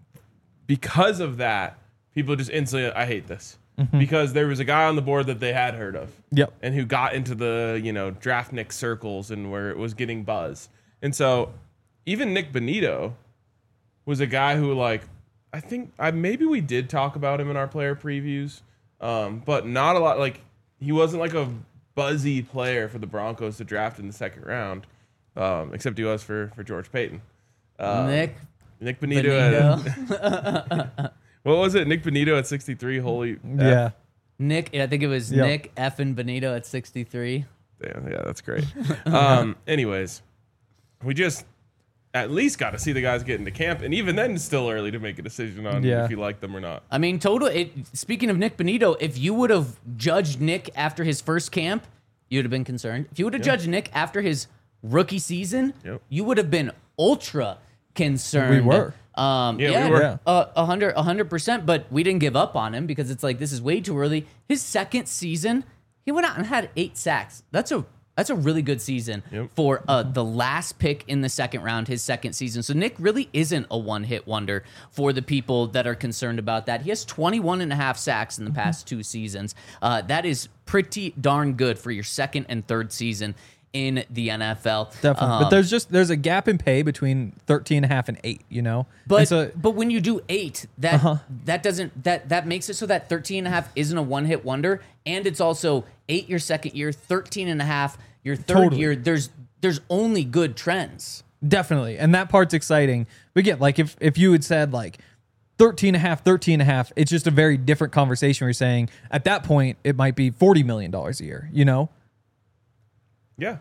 because of that, people just instantly, I hate this. Because there was a guy on the board that they had heard of. Yep. And who got into the, you know, draft Nick circles and where it was getting buzz. And so even Nick Bonito was a guy who, like, I think I maybe we did talk about him in our player previews, um, but not a lot. Like, he wasn't like a buzzy player for the Broncos to draft in the second round, um, except he was for, for George Payton. Um, Nick Nick Bonito. Benito. At, what was it? Nick Bonito at sixty-three. Holy. F. Yeah. Nick, I think it was Yep. Nick effing Benito at sixty-three. Damn, yeah, that's great. um, anyways, we just at least got to see the guys get into camp, and even then, it's still early to make a decision on Yeah. if you like them or not. I mean, total. It, speaking of Nick Bonito, if you would have judged Nick after his first camp, you'd have been concerned. If you would have judged Nick after his rookie season, Yep. you would have been ultra concerned. We were. Um, Yeah, yeah, we were. Yeah. Uh, a hundred, a hundred percent. But we didn't give up on him because it's like this is way too early. His second season, he went out and had eight sacks. That's a that's a really good season Yep. for uh, the last pick in the second round, his second season. So Nick really isn't a one-hit wonder for the people that are concerned about that. He has twenty-one and a half sacks in the past two seasons. Uh, that is pretty darn good for your second and third season in the N F L. Definitely. Um, but there's just there's a gap in pay between thirteen and a half and eight, you know? But And so, but when you do eight, that Uh-huh. that doesn't that that makes it so that thirteen and a half isn't a one hit wonder, and it's also eight your second year, thirteen and a half your third Totally. year. There's there's only good trends. definitely. And that part's exciting. But again, like if if you had said like thirteen and a half, thirteen and a half, it's just a very different conversation where you're saying at that point it might be forty million dollars a year, you know? Yeah.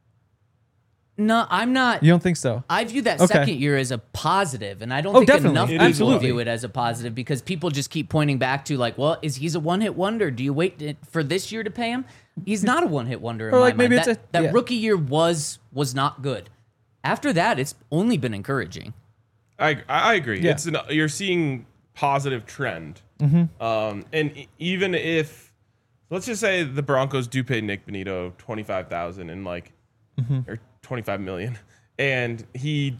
No, I'm not. You don't think so? I view that Okay. second year as a positive, and I don't Oh, think definitely. enough It people is a lot. view it as a positive because people just keep pointing back to like, well, is he's a one hit wonder? Do you wait to- for this year to pay him? He's not a one hit wonder. In Or, my like, maybe mind. it's that, a- that yeah. rookie year was was not good. After that, it's only been encouraging. I I agree. Yeah. It's an, you're seeing positive trend. Mm-hmm. Um, and e- even if let's just say the Broncos do pay Nick Bonito twenty five thousand and like Mm-hmm. or twenty five million, and he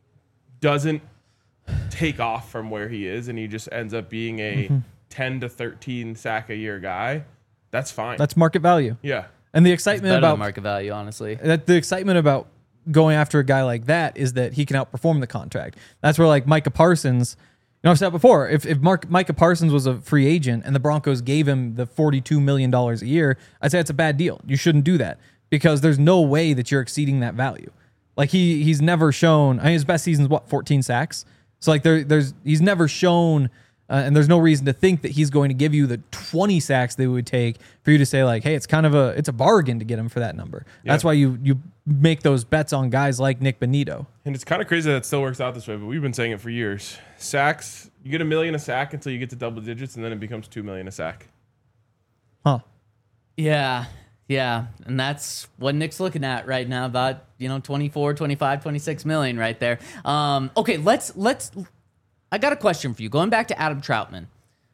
doesn't take off from where he is, and he just ends up being a Mm-hmm. ten to thirteen sack a year guy. That's fine. That's market value. yeah. And the It's excitement better about than market value, honestly. that the excitement about going after a guy like that is that he can outperform the contract. That's where like Micah Parsons, you know, I've said before, if if Mark Micah Parsons was a free agent and the Broncos gave him the forty-two million dollars a year, I'd say it's a bad deal. You shouldn't do that because there's no way that you're exceeding that value. Like he he's never shown. I mean, his best season's what, fourteen sacks. So like there there's he's never shown. Uh, and there's no reason to think that he's going to give you the twenty sacks they would take for you to say like, hey, it's kind of a it's a bargain to get him for that number. That's Yeah. why you you make those bets on guys like Nick Bonito. And it's kind of crazy that it still works out this way, but we've been saying it for years. Sacks, you get a million a sack until you get to double digits, and then it becomes two million a sack. Huh. Yeah. Yeah. And that's what Nick's looking at right now, about, you know, twenty-four, twenty-five, twenty-six million right there. Um, okay, let's let's I got a question for you. Going back to Adam Troutman.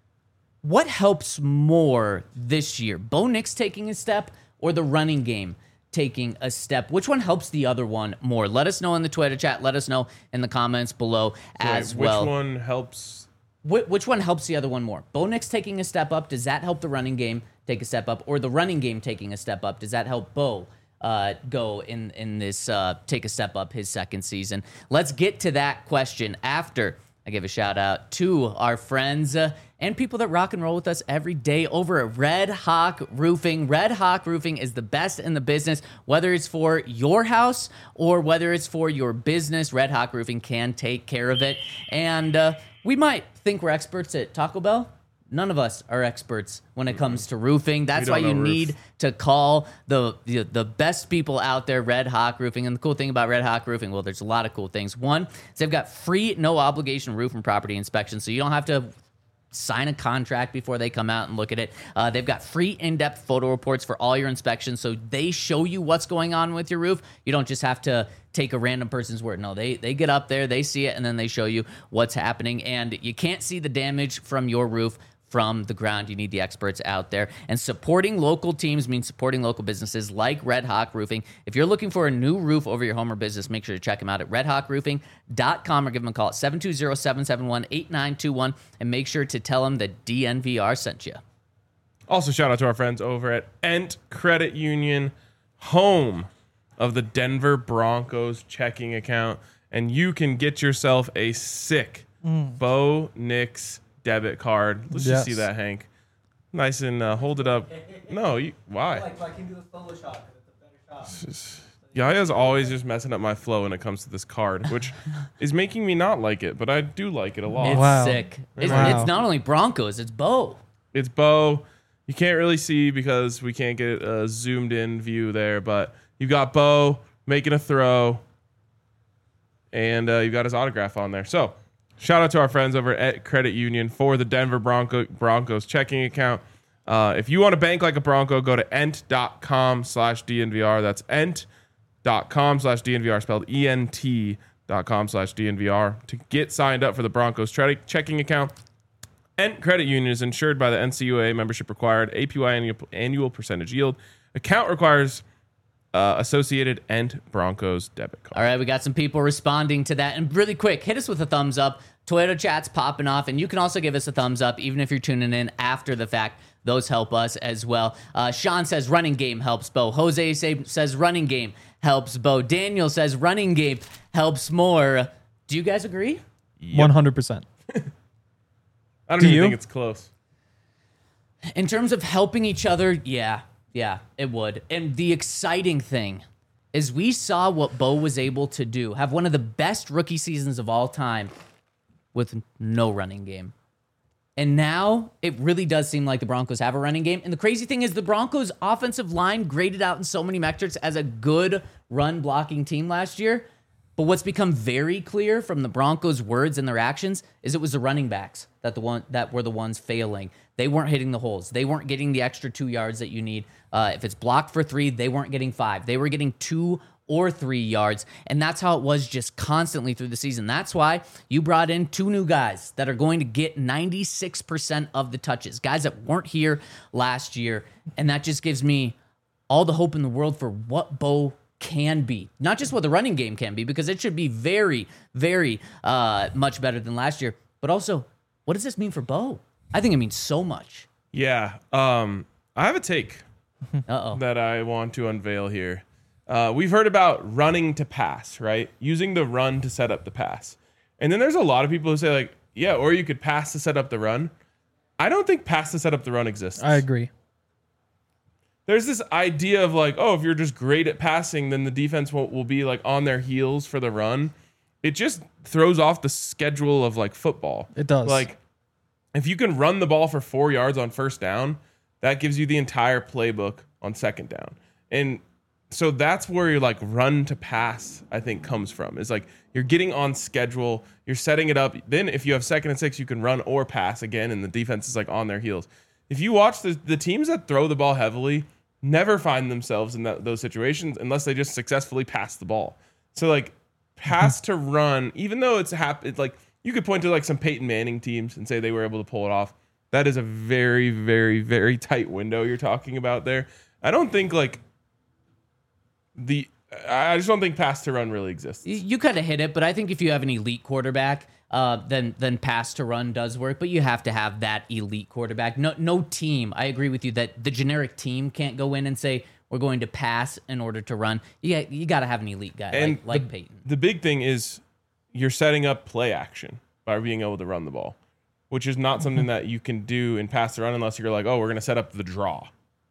What helps more this year? Bo Nix taking a step or the running game taking a step? Which one helps the other one more? Let us know in the Twitter chat. Let us know in the comments below as Wait, well. Which one helps? Wh- which one helps the other one more? Bo Nix taking a step up, does that help the running game take a step up? Or the running game taking a step up, does that help Bo uh, go in, in this, uh, take a step up his second season? Let's get to that question after I give a shout out to our friends uh, and people that rock and roll with us every day over at Red Hawk Roofing. Red Hawk Roofing is the best in the business, whether it's for your house or whether it's for your business. Red Hawk Roofing can take care of it. And uh, we might think we're experts at Taco Bell. None of us are experts when it comes to roofing. That's We why don't you know roof. need to call the, the the best people out there, Red Hawk Roofing. And the cool thing about Red Hawk Roofing, well, there's a lot of cool things. One is they've got free, no obligation roof and property inspection, so you don't have to sign a contract before they come out and look at it. Uh, they've got free in-depth photo reports for all your inspections, so they show you what's going on with your roof. You don't just have to take a random person's word. No, they they get up there, they see it, and then they show you what's happening. And you can't see the damage from your roof from the ground. You need the experts out there. And supporting local teams means supporting local businesses like Red Hawk Roofing. If you're looking for a new roof over your home or business, make sure to check them out at red hawk roofing dot com or give them a call at seven two zero, seven seven one, eight nine two one and make sure to tell them that D N V R sent you. Also, shout out to our friends over at Ent Credit Union, home of the Denver Broncos checking account. And you can get yourself a sick Bo Nix debit card. Let's Yes. just see that, Hank. Nice and uh, hold it up. No, you, why? I can do the Photoshop. It's a better shot. Yaya's always just messing up my flow when it comes to this card, which is making me not like it, but I do like it a lot. It's Wow. sick. It's, Wow. it's not only Broncos, it's Bo. It's Bo. You can't really see because we can't get a zoomed in view there, but you got Bo making a throw. and uh, you got his autograph on there. So shout out to our friends over at Credit Union for the Denver Bronco, Broncos checking account. Uh, if you want to bank like a Bronco, go to ent.com slash DNVR. That's ent.com slash DNVR, spelled E N T dot com slash DNVR to get signed up for the Broncos tre- checking account. Ent Credit Union is insured by the N C U A, membership required, A P Y annual, annual percentage yield. Account requires uh, associated Ent Broncos debit card. All right, we got some people responding to that. And really quick, hit us with a thumbs up. Toyota chat's popping off, and you can also give us a thumbs up even if you're tuning in after the fact. Those help us as well. Uh, Sean says running game helps Bo. Jose say, says running game helps Bo. Daniel says running game helps more. Do you guys agree? one hundred percent. I don't Do even you? think it's close. In terms of helping each other, yeah, yeah, it would. And the exciting thing is we saw what Bo was able to do, have one of the best rookie seasons of all time with no running game. And now it really does seem like the Broncos have a running game. And the crazy thing is the Broncos offensive line graded out in so many metrics as a good run blocking team last year. But what's become very clear from the Broncos' words and their actions is it was the running backs that the one that were the ones failing. They weren't hitting the holes. They weren't getting the extra two yards that you need. Uh, if it's blocked for three, they weren't getting five. They were getting two or three yards. And that's how it was just constantly through the season. That's why you brought in two new guys that are going to get ninety-six percent of the touches, guys that weren't here last year. And that just gives me all the hope in the world for what Bo can be. Not just what the running game can be, because it should be very, very uh, much better than last year. But also, what does this mean for Bo? I think it means so much. Yeah. Um, I have a take Uh-oh. that I want to unveil here. Uh, we've heard about running to pass, right? Using the run to set up the pass. And then there's a lot of people who say, like, yeah, or you could pass to set up the run. I don't think pass to set up the run exists. I agree. There's this idea of like, oh, if you're just great at passing, then the defense will, will be like on their heels for the run. It just throws off the schedule of like football. It does. Like, if you can run the ball for four yards on first down, that gives you the entire playbook on second down. And so that's where your like run to pass, I think, comes from. Is like you're getting on schedule, you're setting it up. Then if you have second and six, you can run or pass again, and the defense is like on their heels. If you watch the the teams that throw the ball heavily, never find themselves in that, those situations unless they just successfully pass the ball. So like pass to run, even though it's hap- it's like you could point to like some Peyton Manning teams and say they were able to pull it off. That is a very, very, very tight window you're talking about there. I don't think like the I just don't think pass to run really exists. You, you kind of hit it, but I think if you have an elite quarterback, uh, then then pass to run does work. But you have to have that elite quarterback. No, no team. I agree with you that the generic team can't go in and say we're going to pass in order to run. Yeah, you, you got to have an elite guy And like, like the, Peyton. The big thing is you're setting up play action by being able to run the ball, which is not something that you can do in pass to run unless you're like, oh, we're going to set up the draw.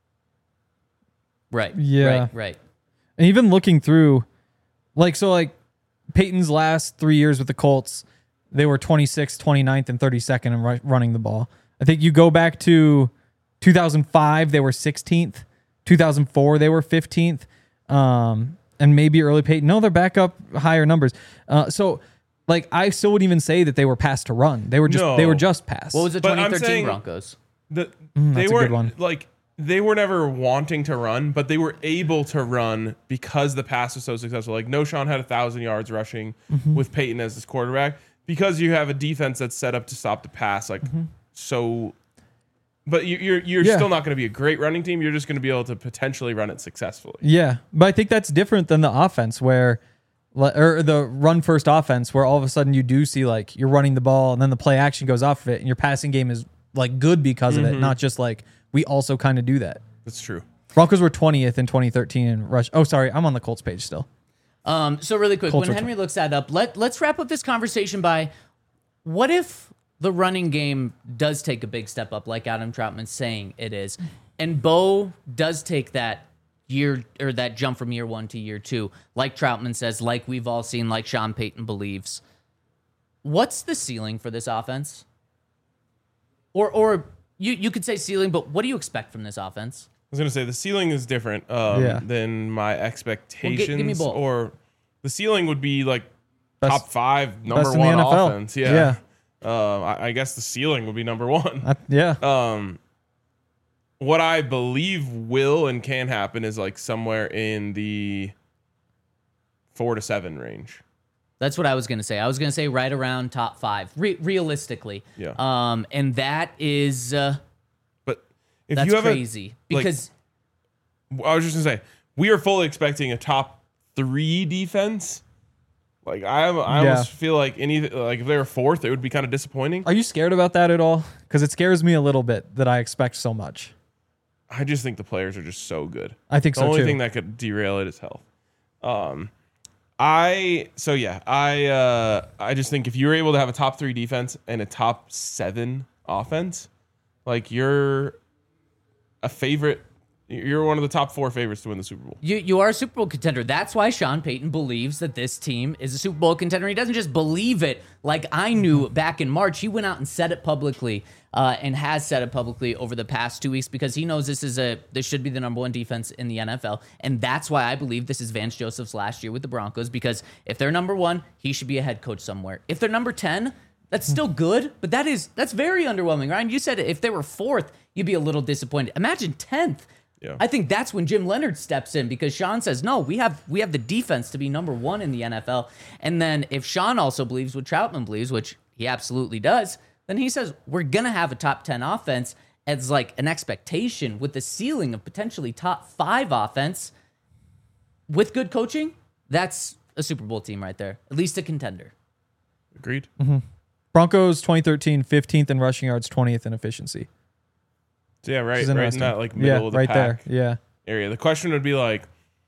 Right. Yeah. Right. Right. And even looking through, like, so like Peyton's last three years with the Colts, they were twenty-sixth, twenty-ninth, and thirty-second in ru- running the ball. I think you go back to two thousand five, they were sixteenth. two thousand four, they were fifteenth. Um, and maybe early Peyton. No, they're back up higher numbers. Uh, so, like, I still wouldn't even say that they were pass to run. They were just No. they were just pass. What was the But I'm twenty thirteen saying- Broncos? The, Mm, they that's a weren't good one. like they were never wanting to run, but they were able to run because the pass was so successful. Like No Sean had a thousand yards rushing Mm-hmm. with Peyton as his quarterback because you have a defense that's set up to stop the pass. Like so, but you, you're you're Yeah. still not going to be a great running team. You're just going to be able to potentially run it successfully. Yeah, but I think that's different than the offense where, or the run first offense where all of a sudden you do see like you're running the ball and then the play action goes off of it and your passing game is like good because of it, not just like we also kind of do that. That's true. Broncos were twentieth in twenty thirteen in rush. Oh, sorry, I'm on the Colts page still. Um, so really quick, Culture when Henry looks that up, let let's wrap up this conversation by what if the running game does take a big step up, like Adam Troutman's saying it is, and Bo does take that year or that jump from year one to year two, like Troutman says, like we've all seen, like Sean Payton believes. What's the ceiling for this offense? Or or you you could say ceiling, but what do you expect from this offense? I was going to say the ceiling is different um, Yeah. than my expectations. me both. Or the ceiling would be like Best- top five, number best in the one N F L. offense. Yeah. Yeah. Um, I, I guess the ceiling would be number one. I, yeah. Um, what I believe will and can happen is like somewhere in the four to seven range. That's what I was going to say. I was going to say right around top five, re- realistically. Yeah. Um, and that is uh, But if that's you have crazy like- because a, I was just gonna say we are fully expecting a top three defense. Like I, I Yeah. almost feel like any like if they were fourth, it would be kind of disappointing. Are you scared about that at all? Because it scares me a little bit that I expect so much. I just think the players are just so good. I think The so only too. thing that could derail it is health. Um, I so yeah, I uh, I just think if you're able to have a top three defense and a top seven offense, like you're a favorite. You're one of the top four favorites to win the Super Bowl. You you are a Super Bowl contender. That's why Sean Payton believes that this team is a Super Bowl contender. He doesn't just believe it like I knew back in March. He went out and said it publicly uh, and has said it publicly over the past two weeks because he knows this is a this should be the number one defense in the N F L. And that's why I believe this is Vance Joseph's last year with the Broncos, because if they're number one, he should be a head coach somewhere. If they're number ten, that's still good, but that is that's very underwhelming. Ryan, you said if they were fourth, you'd be a little disappointed. Imagine tenth. Yeah. I think that's when Jim Leonard steps in because Sean says, no, we have we have the defense to be number one in the N F L. And then if Sean also believes what Troutman believes, which he absolutely does, then he says we're going to have a top ten offense as like an expectation with the ceiling of potentially top five offense with good coaching. That's a Super Bowl team right there, at least a contender. Agreed. Broncos twenty thirteen, fifteenth in rushing yards, twentieth in efficiency. So yeah, right, Which is right in interesting. that like middle Yeah, of the right pack there. Yeah. area. The question would be like,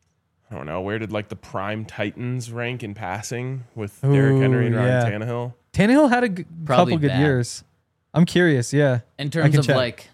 I don't know, where did like the prime Titans rank in passing with Derrick Henry and Ooh, Ryan yeah. Tannehill? Tannehill had a g- Probably couple good bad. years. I'm curious. Yeah. In I terms can of check. like,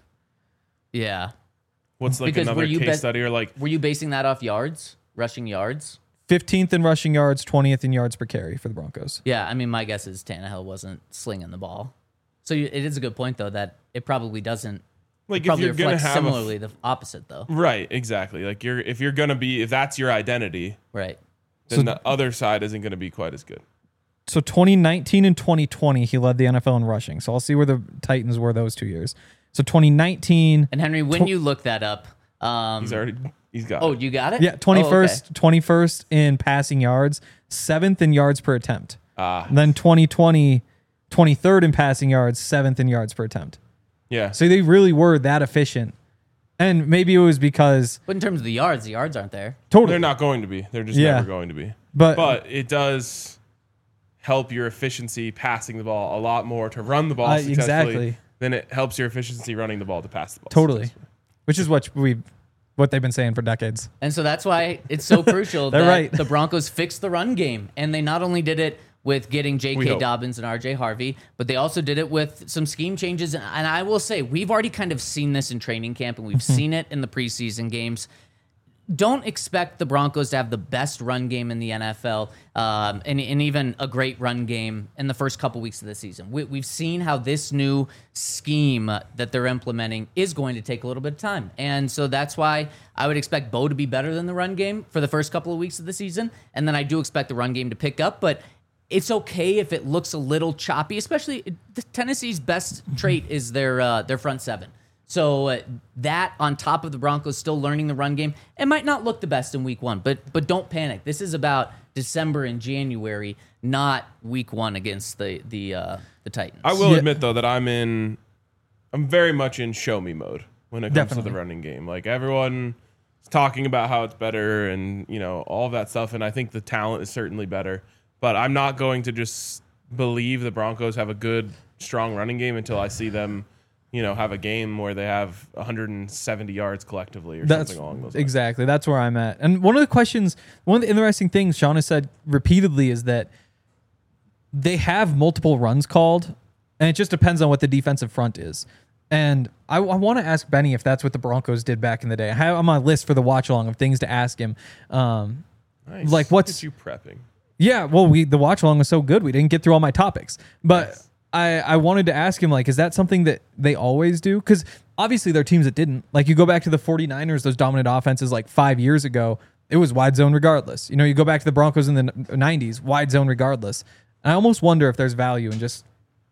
yeah. What's like Because were another you case bet- study or like Were you basing that off yards, rushing yards? fifteenth in rushing yards, twentieth in yards per carry for the Broncos. Yeah, I mean, my guess is Tannehill wasn't slinging the ball. So you, it is a good point, though, that it probably doesn't. like It if probably you're gonna reflects have a f- similarly the opposite, though. right, exactly. Like you're if you're gonna be if that's your identity, Right. then So- the other side isn't gonna be quite as good. So twenty nineteen and twenty twenty, he led the N F L in rushing. So I'll see where the Titans were those two years. So twenty nineteen, And Henry, when you look that up, um, He's already he's got oh, it. you got it? yeah, Oh, okay. twenty-first, twenty-first in passing yards, seventh in yards per attempt. Ah, And then twenty twenty, twenty-third in passing yards, seventh in yards per attempt. yeah. So they really were that efficient. And maybe it was because But in terms of the yards, the yards aren't there. totally, They're not going to be. They're just Yeah. never going to be. but, But it does help your efficiency passing the ball a lot more to run the ball Uh, successfully exactly. than it helps your efficiency running the ball to pass the ball. totally, successfully. which is what we, what they've been saying for decades. And so that's why it's so crucial They're that right. the Broncos fixed the run game. And they not only did it with getting J We K. hope. Dobbins and R J Harvey, but they also did it with some scheme changes. And I will say, we've already kind of seen this in training camp, and we've seen it in the preseason games. Don't expect the Broncos to have the best run game in the N F L um, and, and even a great run game in the first couple weeks of the season. We, we've seen how this new scheme that they're implementing is going to take a little bit of time. And so that's why I would expect Bo to be better than the run game for the first couple of weeks of the season. And then I do expect the run game to pick up, but it's okay if it looks a little choppy, especially the Tennessee's best trait is their uh, their front seven. So uh, that on top of the Broncos still learning the run game, it might not look the best in week one, but but don't panic. This is about December and January, not week one against the the uh, the Titans. I will Yeah. admit though that I'm in, I'm very much in show me mode when it comes to Definitely. the running game. Like everyone is talking about how it's better and you know all of that stuff, and I think the talent is certainly better. But I'm not going to just believe the Broncos have a good, strong running game until I see them, you know, have a game where they have one hundred seventy yards collectively or That's something along those lines. exactly. That's where I'm at. And one of the questions, one of the interesting things Sean has said repeatedly is that they have multiple runs called, and it just depends on what the defensive front is. And I, I want to ask Benny if that's what the Broncos did back in the day. I have on my list for the watch along of things to ask him. Um, Nice. like, Look what's- at you prepping? yeah, well, we the watch along was so good we didn't get through all my topics, but. Nice. I, I wanted to ask him, like, is that something that they always do? Because obviously there are teams that didn't. Like, you go back to the 49ers, those dominant offenses like five years ago, it was wide zone regardless. You know, you go back to the Broncos in the nineties, wide zone regardless. And I almost wonder if there's value in just,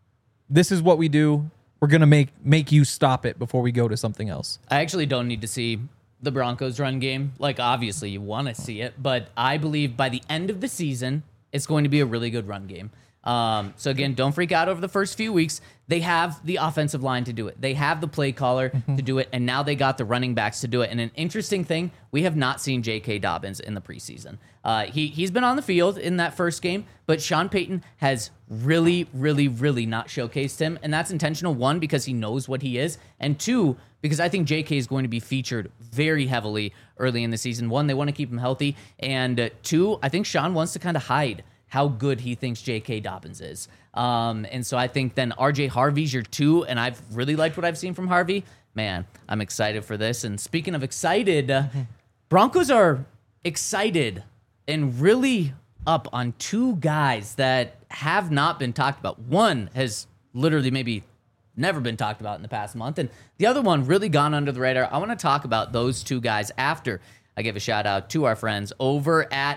this is what we do. We're going to make make you stop it before we go to something else. I actually don't need to see the Broncos run game. Like, obviously, you want to see it, but I believe by the end of the season, it's going to be a really good run game. Um, so, again, don't freak out over the first few weeks. They have the offensive line to do it. They have the play caller mm-hmm. to do it, and now they got the running backs to do it. And an interesting thing, we have not seen J K. Dobbins in the preseason. Uh, he, he's been on the field in that first game, but Sean Payton has really, really, really not showcased him, and that's intentional, one, because he knows what he is, and two, because I think J K is going to be featured very heavily early in the season. One, they want to keep him healthy, and uh, two, I think Sean wants to kind of hide how good he thinks J K. Dobbins is. Um, and so I think then R J Harvey's your two, and I've really liked what I've seen from Harvey. Man, I'm excited for this. And speaking of excited, uh, Broncos are excited and really up on two guys that have not been talked about. One has literally maybe never been talked about in the past month, and the other one really gone under the radar. I want to talk about those two guys after I give a shout out to our friends over at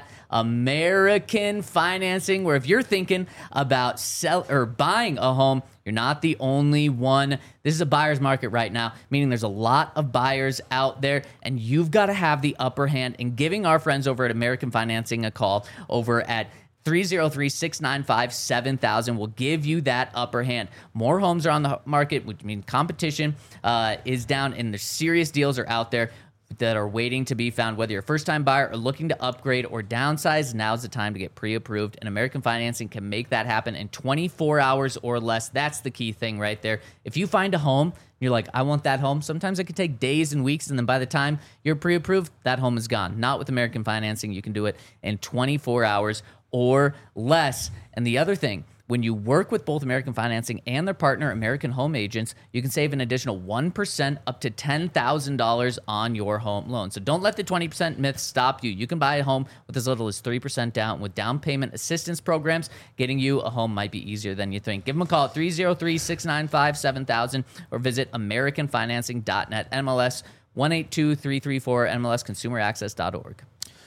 American Financing, where if you're thinking about sell or buying a home, you're not the only one. This is a buyer's market right now, meaning there's a lot of buyers out there, and you've got to have the upper hand in giving our friends over at American Financing a call over at three oh three, six nine five, seven thousand will give you that upper hand. More homes are on the market, which means competition uh, is down, and the serious deals are out there that are waiting to be found. Whether you're a first-time buyer or looking to upgrade or downsize, now's the time to get pre-approved, and American Financing can make that happen in twenty-four hours or less. That's the key thing right there. If you find a home, you're like, I want that home, sometimes it could take days and weeks, and then by the time you're pre-approved, that home is gone. Not with American Financing. You can do it in twenty-four hours or less. And the other thing, when you work with both American Financing and their partner, American Home Agents, you can save an additional one percent up to ten thousand dollars on your home loan. So don't let the twenty percent myth stop you. You can buy a home with as little as three percent down. With down payment assistance programs, getting you a home might be easier than you think. Give them a call at three oh three, six nine five, seven thousand or visit american financing dot net. M L S one eight two three three four, M L S consumer access dot org.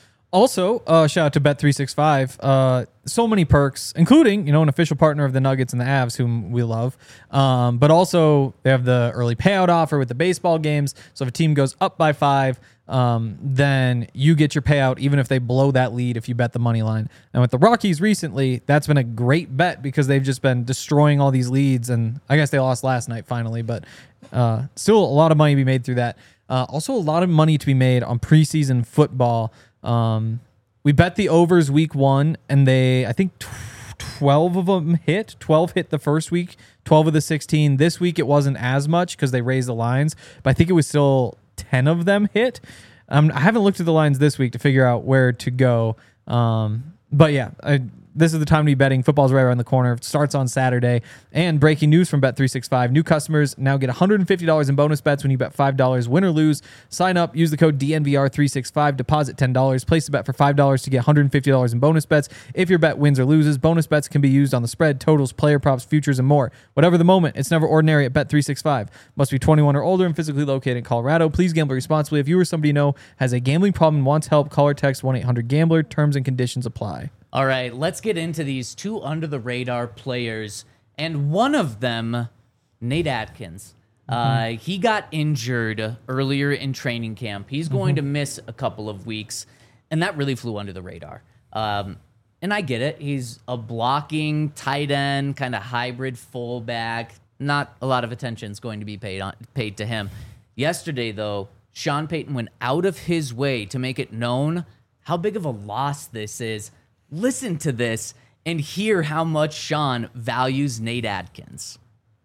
Also, uh, shout out to Bet three sixty-five. Uh, so many perks, including, you know, an official partner of the Nuggets and the Avs, whom we love. Um, but also, they have the early payout offer with the baseball games. So if a team goes up by five, um, then you get your payout, even if they blow that lead if you bet the money line. And with the Rockies recently, that's been a great bet because they've just been destroying all these leads. And I guess they lost last night finally, but uh, still a lot of money to be made through that. Uh, also, a lot of money to be made on preseason football. Um, we bet the overs week one, and they, I think twelve of them hit. twelve hit the first week, twelve of the sixteen. This week it wasn't as much because they raised the lines, but I think it was still ten of them hit. Um, I haven't looked at the lines this week to figure out where to go. Um, but yeah, I, this is the time to be betting. Football's right around the corner. It starts on Saturday. And breaking news from Bet three sixty-five. New customers now get one hundred fifty dollars in bonus bets when you bet five dollars, win or lose. Sign up, use the code D N V R three sixty-five, deposit ten dollars, place a bet for five dollars to get one hundred fifty dollars in bonus bets. If your bet wins or loses, bonus bets can be used on the spread, totals, player props, futures, and more. Whatever the moment, it's never ordinary at Bet three sixty-five. Must be twenty-one or older and physically located in Colorado. Please gamble responsibly. If you or somebody you know has a gambling problem and wants help, call or text one eight hundred gambler. Terms and conditions apply. All right, let's get into these two under-the-radar players, and one of them, Nate Atkins. Mm-hmm. Uh, he got injured earlier in training camp. He's going mm-hmm. to miss a couple of weeks, and that really flew under the radar. Um, and I get it. He's a blocking tight end, kind of hybrid fullback. Not a lot of attention is going to be paid on, paid to him. Yesterday, though, Sean Payton went out of his way to make it known how big of a loss this is. Listen to this and hear how much Sean values Nate Atkins.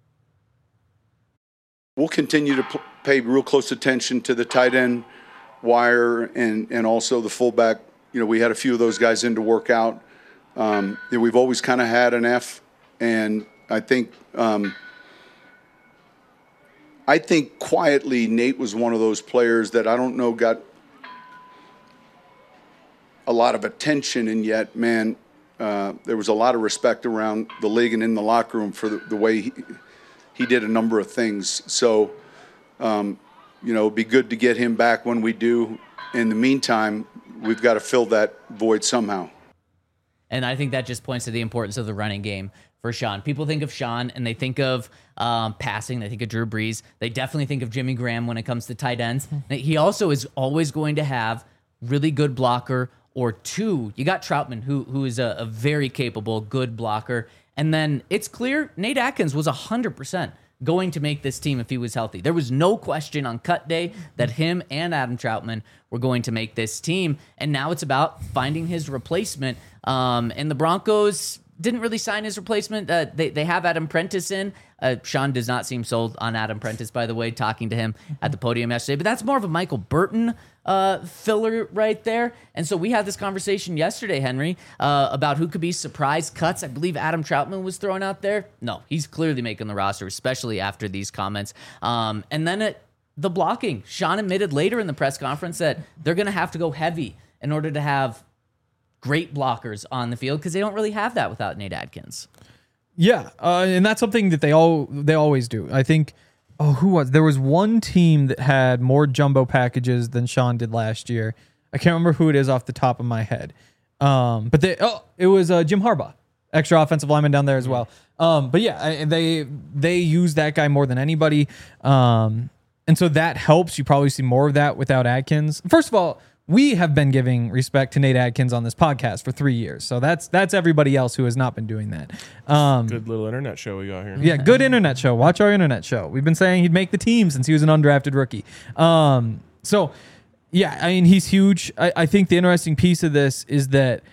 We'll continue to p- pay real close attention to the tight end wire and, and also the fullback. You know, we had a few of those guys in to work out. Um, you know, we've always kind of had an F, and I think um, I think quietly Nate was one of those players that I don't know got a lot of attention, and yet, man, uh, there was a lot of respect around the league and in the locker room for the, the way he, he did a number of things. So, um, you know, it'd be good to get him back when we do. In the meantime, we've got to fill that void somehow. And I think that just points to the importance of the running game for Sean. People think of Sean and they think of um, passing. They think of Drew Brees. They definitely think of Jimmy Graham when it comes to tight ends. He also is always going to have really good blocker or two. You got Troutman, who who is a, a very capable, good blocker. And then it's clear Nate Atkins was one hundred percent going to make this team if he was healthy. There was no question on cut day that him and Adam Troutman were going to make this team. And now it's about finding his replacement. Um, and the Broncos didn't really sign his replacement. Uh, they, they have Adam Prentice in. Uh, Sean does not seem sold on Adam Prentice, by the way, talking to him at the podium yesterday. But that's more of a Michael Burton uh, filler right there. And so we had this conversation yesterday, Henry, uh, about who could be surprise cuts. I believe Adam Troutman was thrown out there. No, he's clearly making the roster, especially after these comments. Um, and then it, the blocking. Sean admitted later in the press conference that they're going to have to go heavy in order to have great blockers on the field because they don't really have that without Nate Atkins. Yeah, uh, and that's something that they all they always do. I think. Oh, who was there was one team that had more jumbo packages than Sean did last year. I can't remember who it is off the top of my head. Um, but they oh, it was uh, Jim Harbaugh, extra offensive lineman down there as well. Um, but yeah, I, they they use that guy more than anybody, um, and so that helps. You probably see more of that without Atkins. First of all, we have been giving respect to Nate Atkins on this podcast for three years. So that's that's everybody else who has not been doing that. Um, Good little internet show we got here. yeah, good internet show. Watch our internet show. We've been saying he'd make the team since he was an undrafted rookie. Um, so, yeah, I mean, he's huge. I, I think the interesting piece of this is that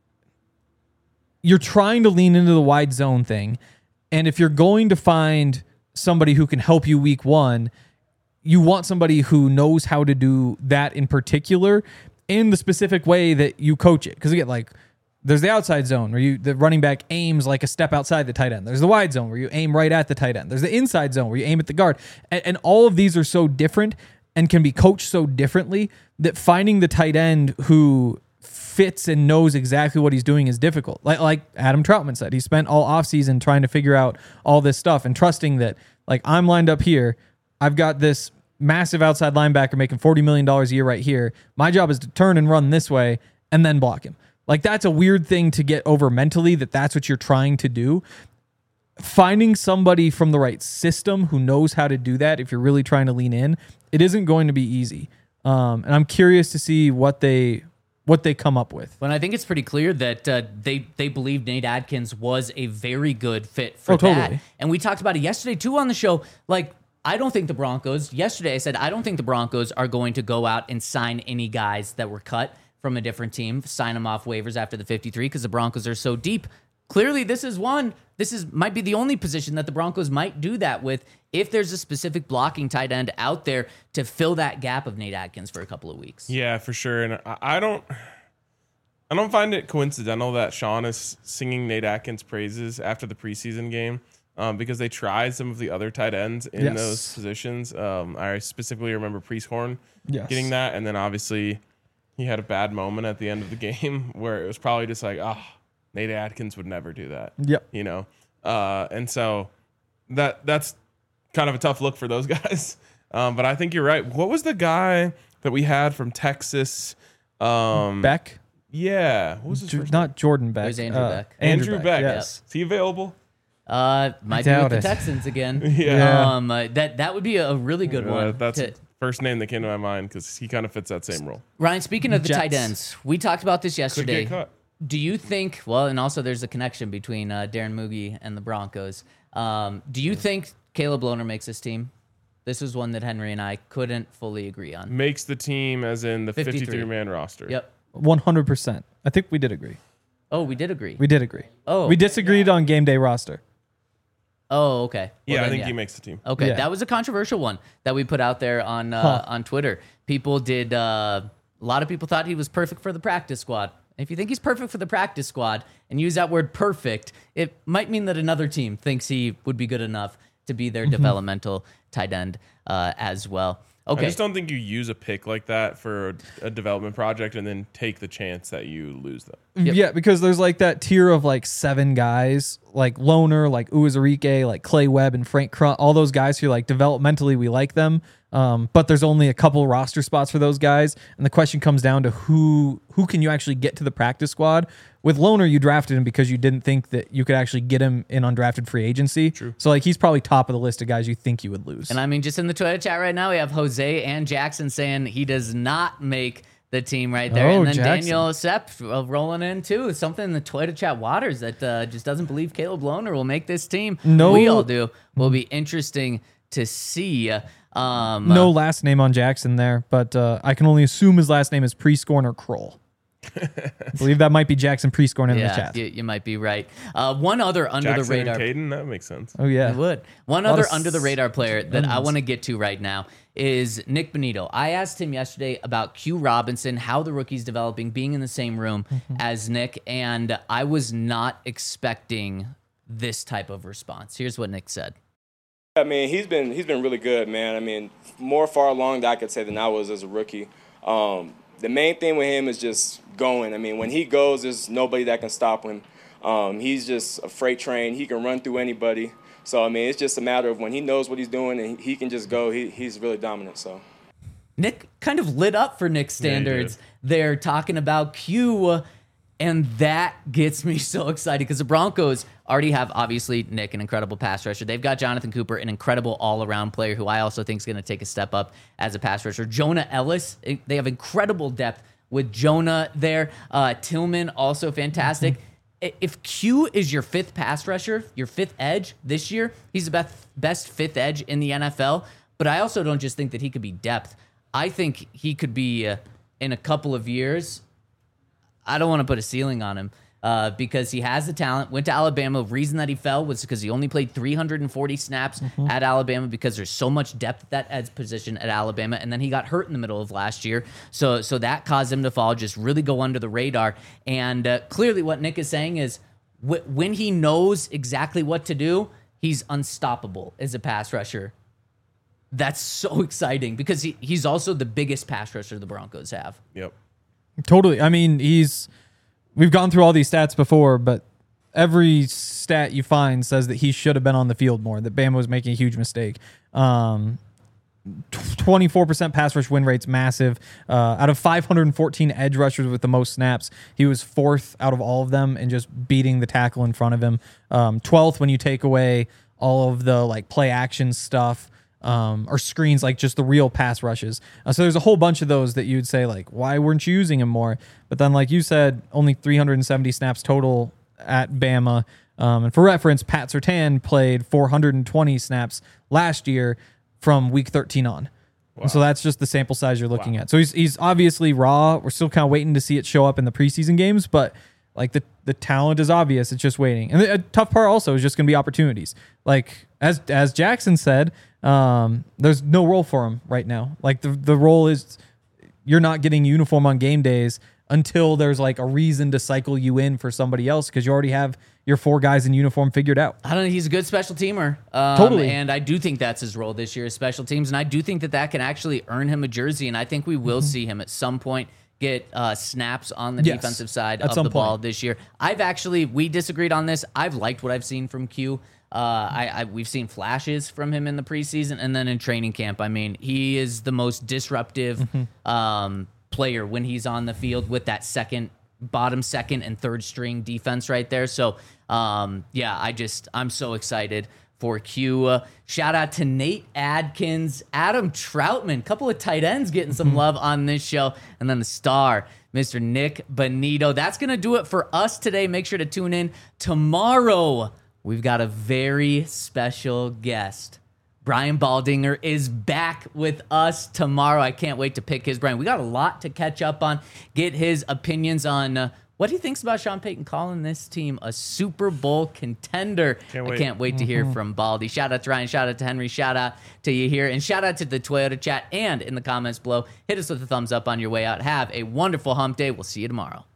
you're trying to lean into the wide zone thing. And if you're going to find somebody who can help you week one, you want somebody who knows how to do that in particular in the specific way that you coach it. Because again, like there's the outside zone where you the running back aims like a step outside the tight end. There's the wide zone where you aim right at the tight end. There's the inside zone where you aim at the guard. And, and all of these are so different and can be coached so differently that finding the tight end who fits and knows exactly what he's doing is difficult. Like like Adam Troutman said, he spent all offseason trying to figure out all this stuff and trusting that like I'm lined up here. I've got this massive outside linebacker making forty million dollars a year right here. My job is to turn and run this way and then block him. Like that's a weird thing to get over mentally that that's what you're trying to do. Finding somebody from the right system who knows how to do that, if you're really trying to lean in, it isn't going to be easy. Um, and I'm curious to see what they what they come up with. But I think it's pretty clear that uh, they they believe Nate Atkins was a very good fit for Oh, that. totally. And we talked about it yesterday too on the show. Like I don't think the Broncos, yesterday I said, I don't think the Broncos are going to go out and sign any guys that were cut from a different team, sign them off waivers after the fifty-three because the Broncos are so deep. Clearly, this is one, this is might be the only position that the Broncos might do that with if there's a specific blocking tight end out there to fill that gap of Nate Atkins for a couple of weeks. Yeah, for sure. And I, I don't I don't find it coincidental that Sean is singing Nate Atkins praises after the preseason game. Um, because they tried some of the other tight ends in Yes. those positions. Um, I specifically remember Priest Horn Yes. getting that. And then obviously he had a bad moment at the end of the game where it was probably just like, oh, Nate Atkins would never do that. Yep. You know? Uh, and so that that's kind of a tough look for those guys. Um, but I think you're right. What was the guy that we had from Texas? Um, Beck? Yeah. What was his J- first not Jordan Beck. It was Andrew uh, Beck. Andrew, Beck. Yes. Is he available? Uh, might be doubt with the it. Texans again. Yeah. Um, uh, that that would be a really good Uh, one. that's to- the first name that came to my mind because he kind of fits that same role. Ryan, speaking of the Jets. tight ends, we talked about this Could yesterday. get cut. Do you think, well, and also there's a connection between uh, Darren Moogie and the Broncos. Um, do you think Caleb Lohner makes this team? This was one that Henry and I couldn't fully agree on. Makes the team as in the fifty-three. fifty-three man roster. Yep. one hundred percent. I think we did agree. Oh, we did agree. We did agree. Oh. We disagreed on game day roster. Oh, okay. Well, Yeah, I then, think he makes the team. Okay, Yeah. that was a controversial one that we put out there on uh, Huh. on Twitter. People did. Uh, a lot of people thought he was perfect for the practice squad. If you think he's perfect for the practice squad and use that word perfect, it might mean that another team thinks he would be good enough to be their developmental tight end uh, as well. I Okay, just don't think you use a pick like that for a, a development project and then take the chance that you lose them. Yep. Yeah, because there's like that tier of like seven guys. like Loner, like Uwazurike, like Clay Webb and Frank Crunt, all those guys who like developmentally we like them. Um, but there's only a couple roster spots for those guys. And the question comes down to who who can you actually get to the practice squad? With Loner, you drafted him because you didn't think that you could actually get him in undrafted free agency. True. So like he's probably top of the list of guys you think you would lose. And I mean, just in the Twitter chat right now, we have Jose and Jackson saying he does not make the team right there. Oh, and then Jackson. Daniel Sepp uh, rolling in too. Something in the Twitter chat waters that uh, just doesn't believe Caleb Loner will make this team. No. We all do. Will be interesting to see. Um, No last name on Jackson there, but uh, I can only assume his last name is Prescorn or Kroll. I believe that might be Jackson Prescorn in yeah, the chat. You, you might be right. Uh, one other under Jackson the radar. and Caden, that makes sense. Oh yeah, I would. One lot other of under the radar player that I onions. want to get to right now is Nick Bonito. I asked him yesterday about Q Robinson, how the rookie's developing, being in the same room Mm-hmm. as Nick, and I was not expecting this type of response. Here's what Nick said. I mean, he's been he's been really good, man. I mean, more far along that I could say than I was as a rookie. Um, the main thing with him is just going. I mean, when he goes, there's nobody that can stop him. Um, he's just a freight train. He can run through anybody. So, I mean, it's just a matter of when he knows what he's doing and he can just go, he, he's really dominant. So, Nick kind of lit up for Nick's standards. They're talking about Q, and that gets me so excited because the Broncos already have, obviously, Nick, an incredible pass rusher. They've got Jonathan Cooper, an incredible all-around player who I also think is going to take a step up as a pass rusher. Jonah Ellis, they have incredible depth with Jonah there. Uh, Tillman, also fantastic. If Q is your fifth pass rusher, your fifth edge this year, he's the best, best fifth edge in the N F L. But I also don't just think that he could be depth. I think he could be, uh, in a couple of years, I don't want to put a ceiling on him uh, because he has the talent. Went to Alabama. Reason that he fell was because he only played three hundred forty snaps Mm-hmm. at Alabama because there's so much depth at that edge position at Alabama. And then he got hurt in the middle of last year. So so that caused him to fall, just really go under the radar. And uh, clearly what Nick is saying is wh- when he knows exactly what to do, he's unstoppable as a pass rusher. That's so exciting because he, he's also the biggest pass rusher the Broncos have. Yep. Totally. I mean, he's we've gone through all these stats before, but every stat you find says that he should have been on the field more, that Bama was making a huge mistake. Um, twenty-four percent pass rush win rate's massive. Uh, out of five hundred fourteen edge rushers with the most snaps, he was fourth out of all of them and just beating the tackle in front of him. Um, twelfth when you take away all of the like play action stuff. Um, or screens, like just the real pass rushes. Uh, so there's a whole bunch of those that you'd say, like, why weren't you using him more? But then, like you said, only three hundred seventy snaps total at Bama. Um, and for reference, Pat Surtain played four hundred twenty snaps last year from week thirteen on. Wow. And so that's just the sample size you're looking Wow. at. So he's he's obviously raw. We're still kind of waiting to see it show up in the preseason games, but like the, the talent is obvious. It's just waiting. And the a tough part also is just going to be opportunities. Like as as Jackson said, um, there's no role for him right now. Like the the role is you're not getting uniform on game days until there's like a reason to cycle you in for somebody else because you already have your four guys in uniform figured out. I don't know. He's a good special teamer. Um, Totally. And I do think that's his role this year is special teams. And I do think that that can actually earn him a jersey. And I think we will see him at some point get uh, snaps on the Yes, defensive side at of some the ball point. this year. I've actually, we disagreed on this. I've liked what I've seen from Q. Uh, I, I we've seen flashes from him in the preseason and then in training camp. I mean, he is the most disruptive Mm-hmm. um, player when he's on the field with that second, bottom second and third string defense right there. So, um, yeah, I just I'm so excited for Q. Uh, shout out to Nate Adkins, Adam Troutman, couple of tight ends getting some love on this show, and then the star, Mister Nick Bonito. That's gonna do it for us today. Make sure to tune in tomorrow. We've got a very special guest. Brian Baldinger is back with us tomorrow. I can't wait to pick his brain. We got a lot to catch up on, get his opinions on uh, what he thinks about Sean Payton calling this team a Super Bowl contender. Can't I wait. can't wait to hear from Baldy. Shout out to Ryan, shout out to Henry, shout out to you here, and shout out to the Toyota chat and in the comments below. Hit us with a thumbs up on your way out. Have a wonderful hump day. We'll see you tomorrow.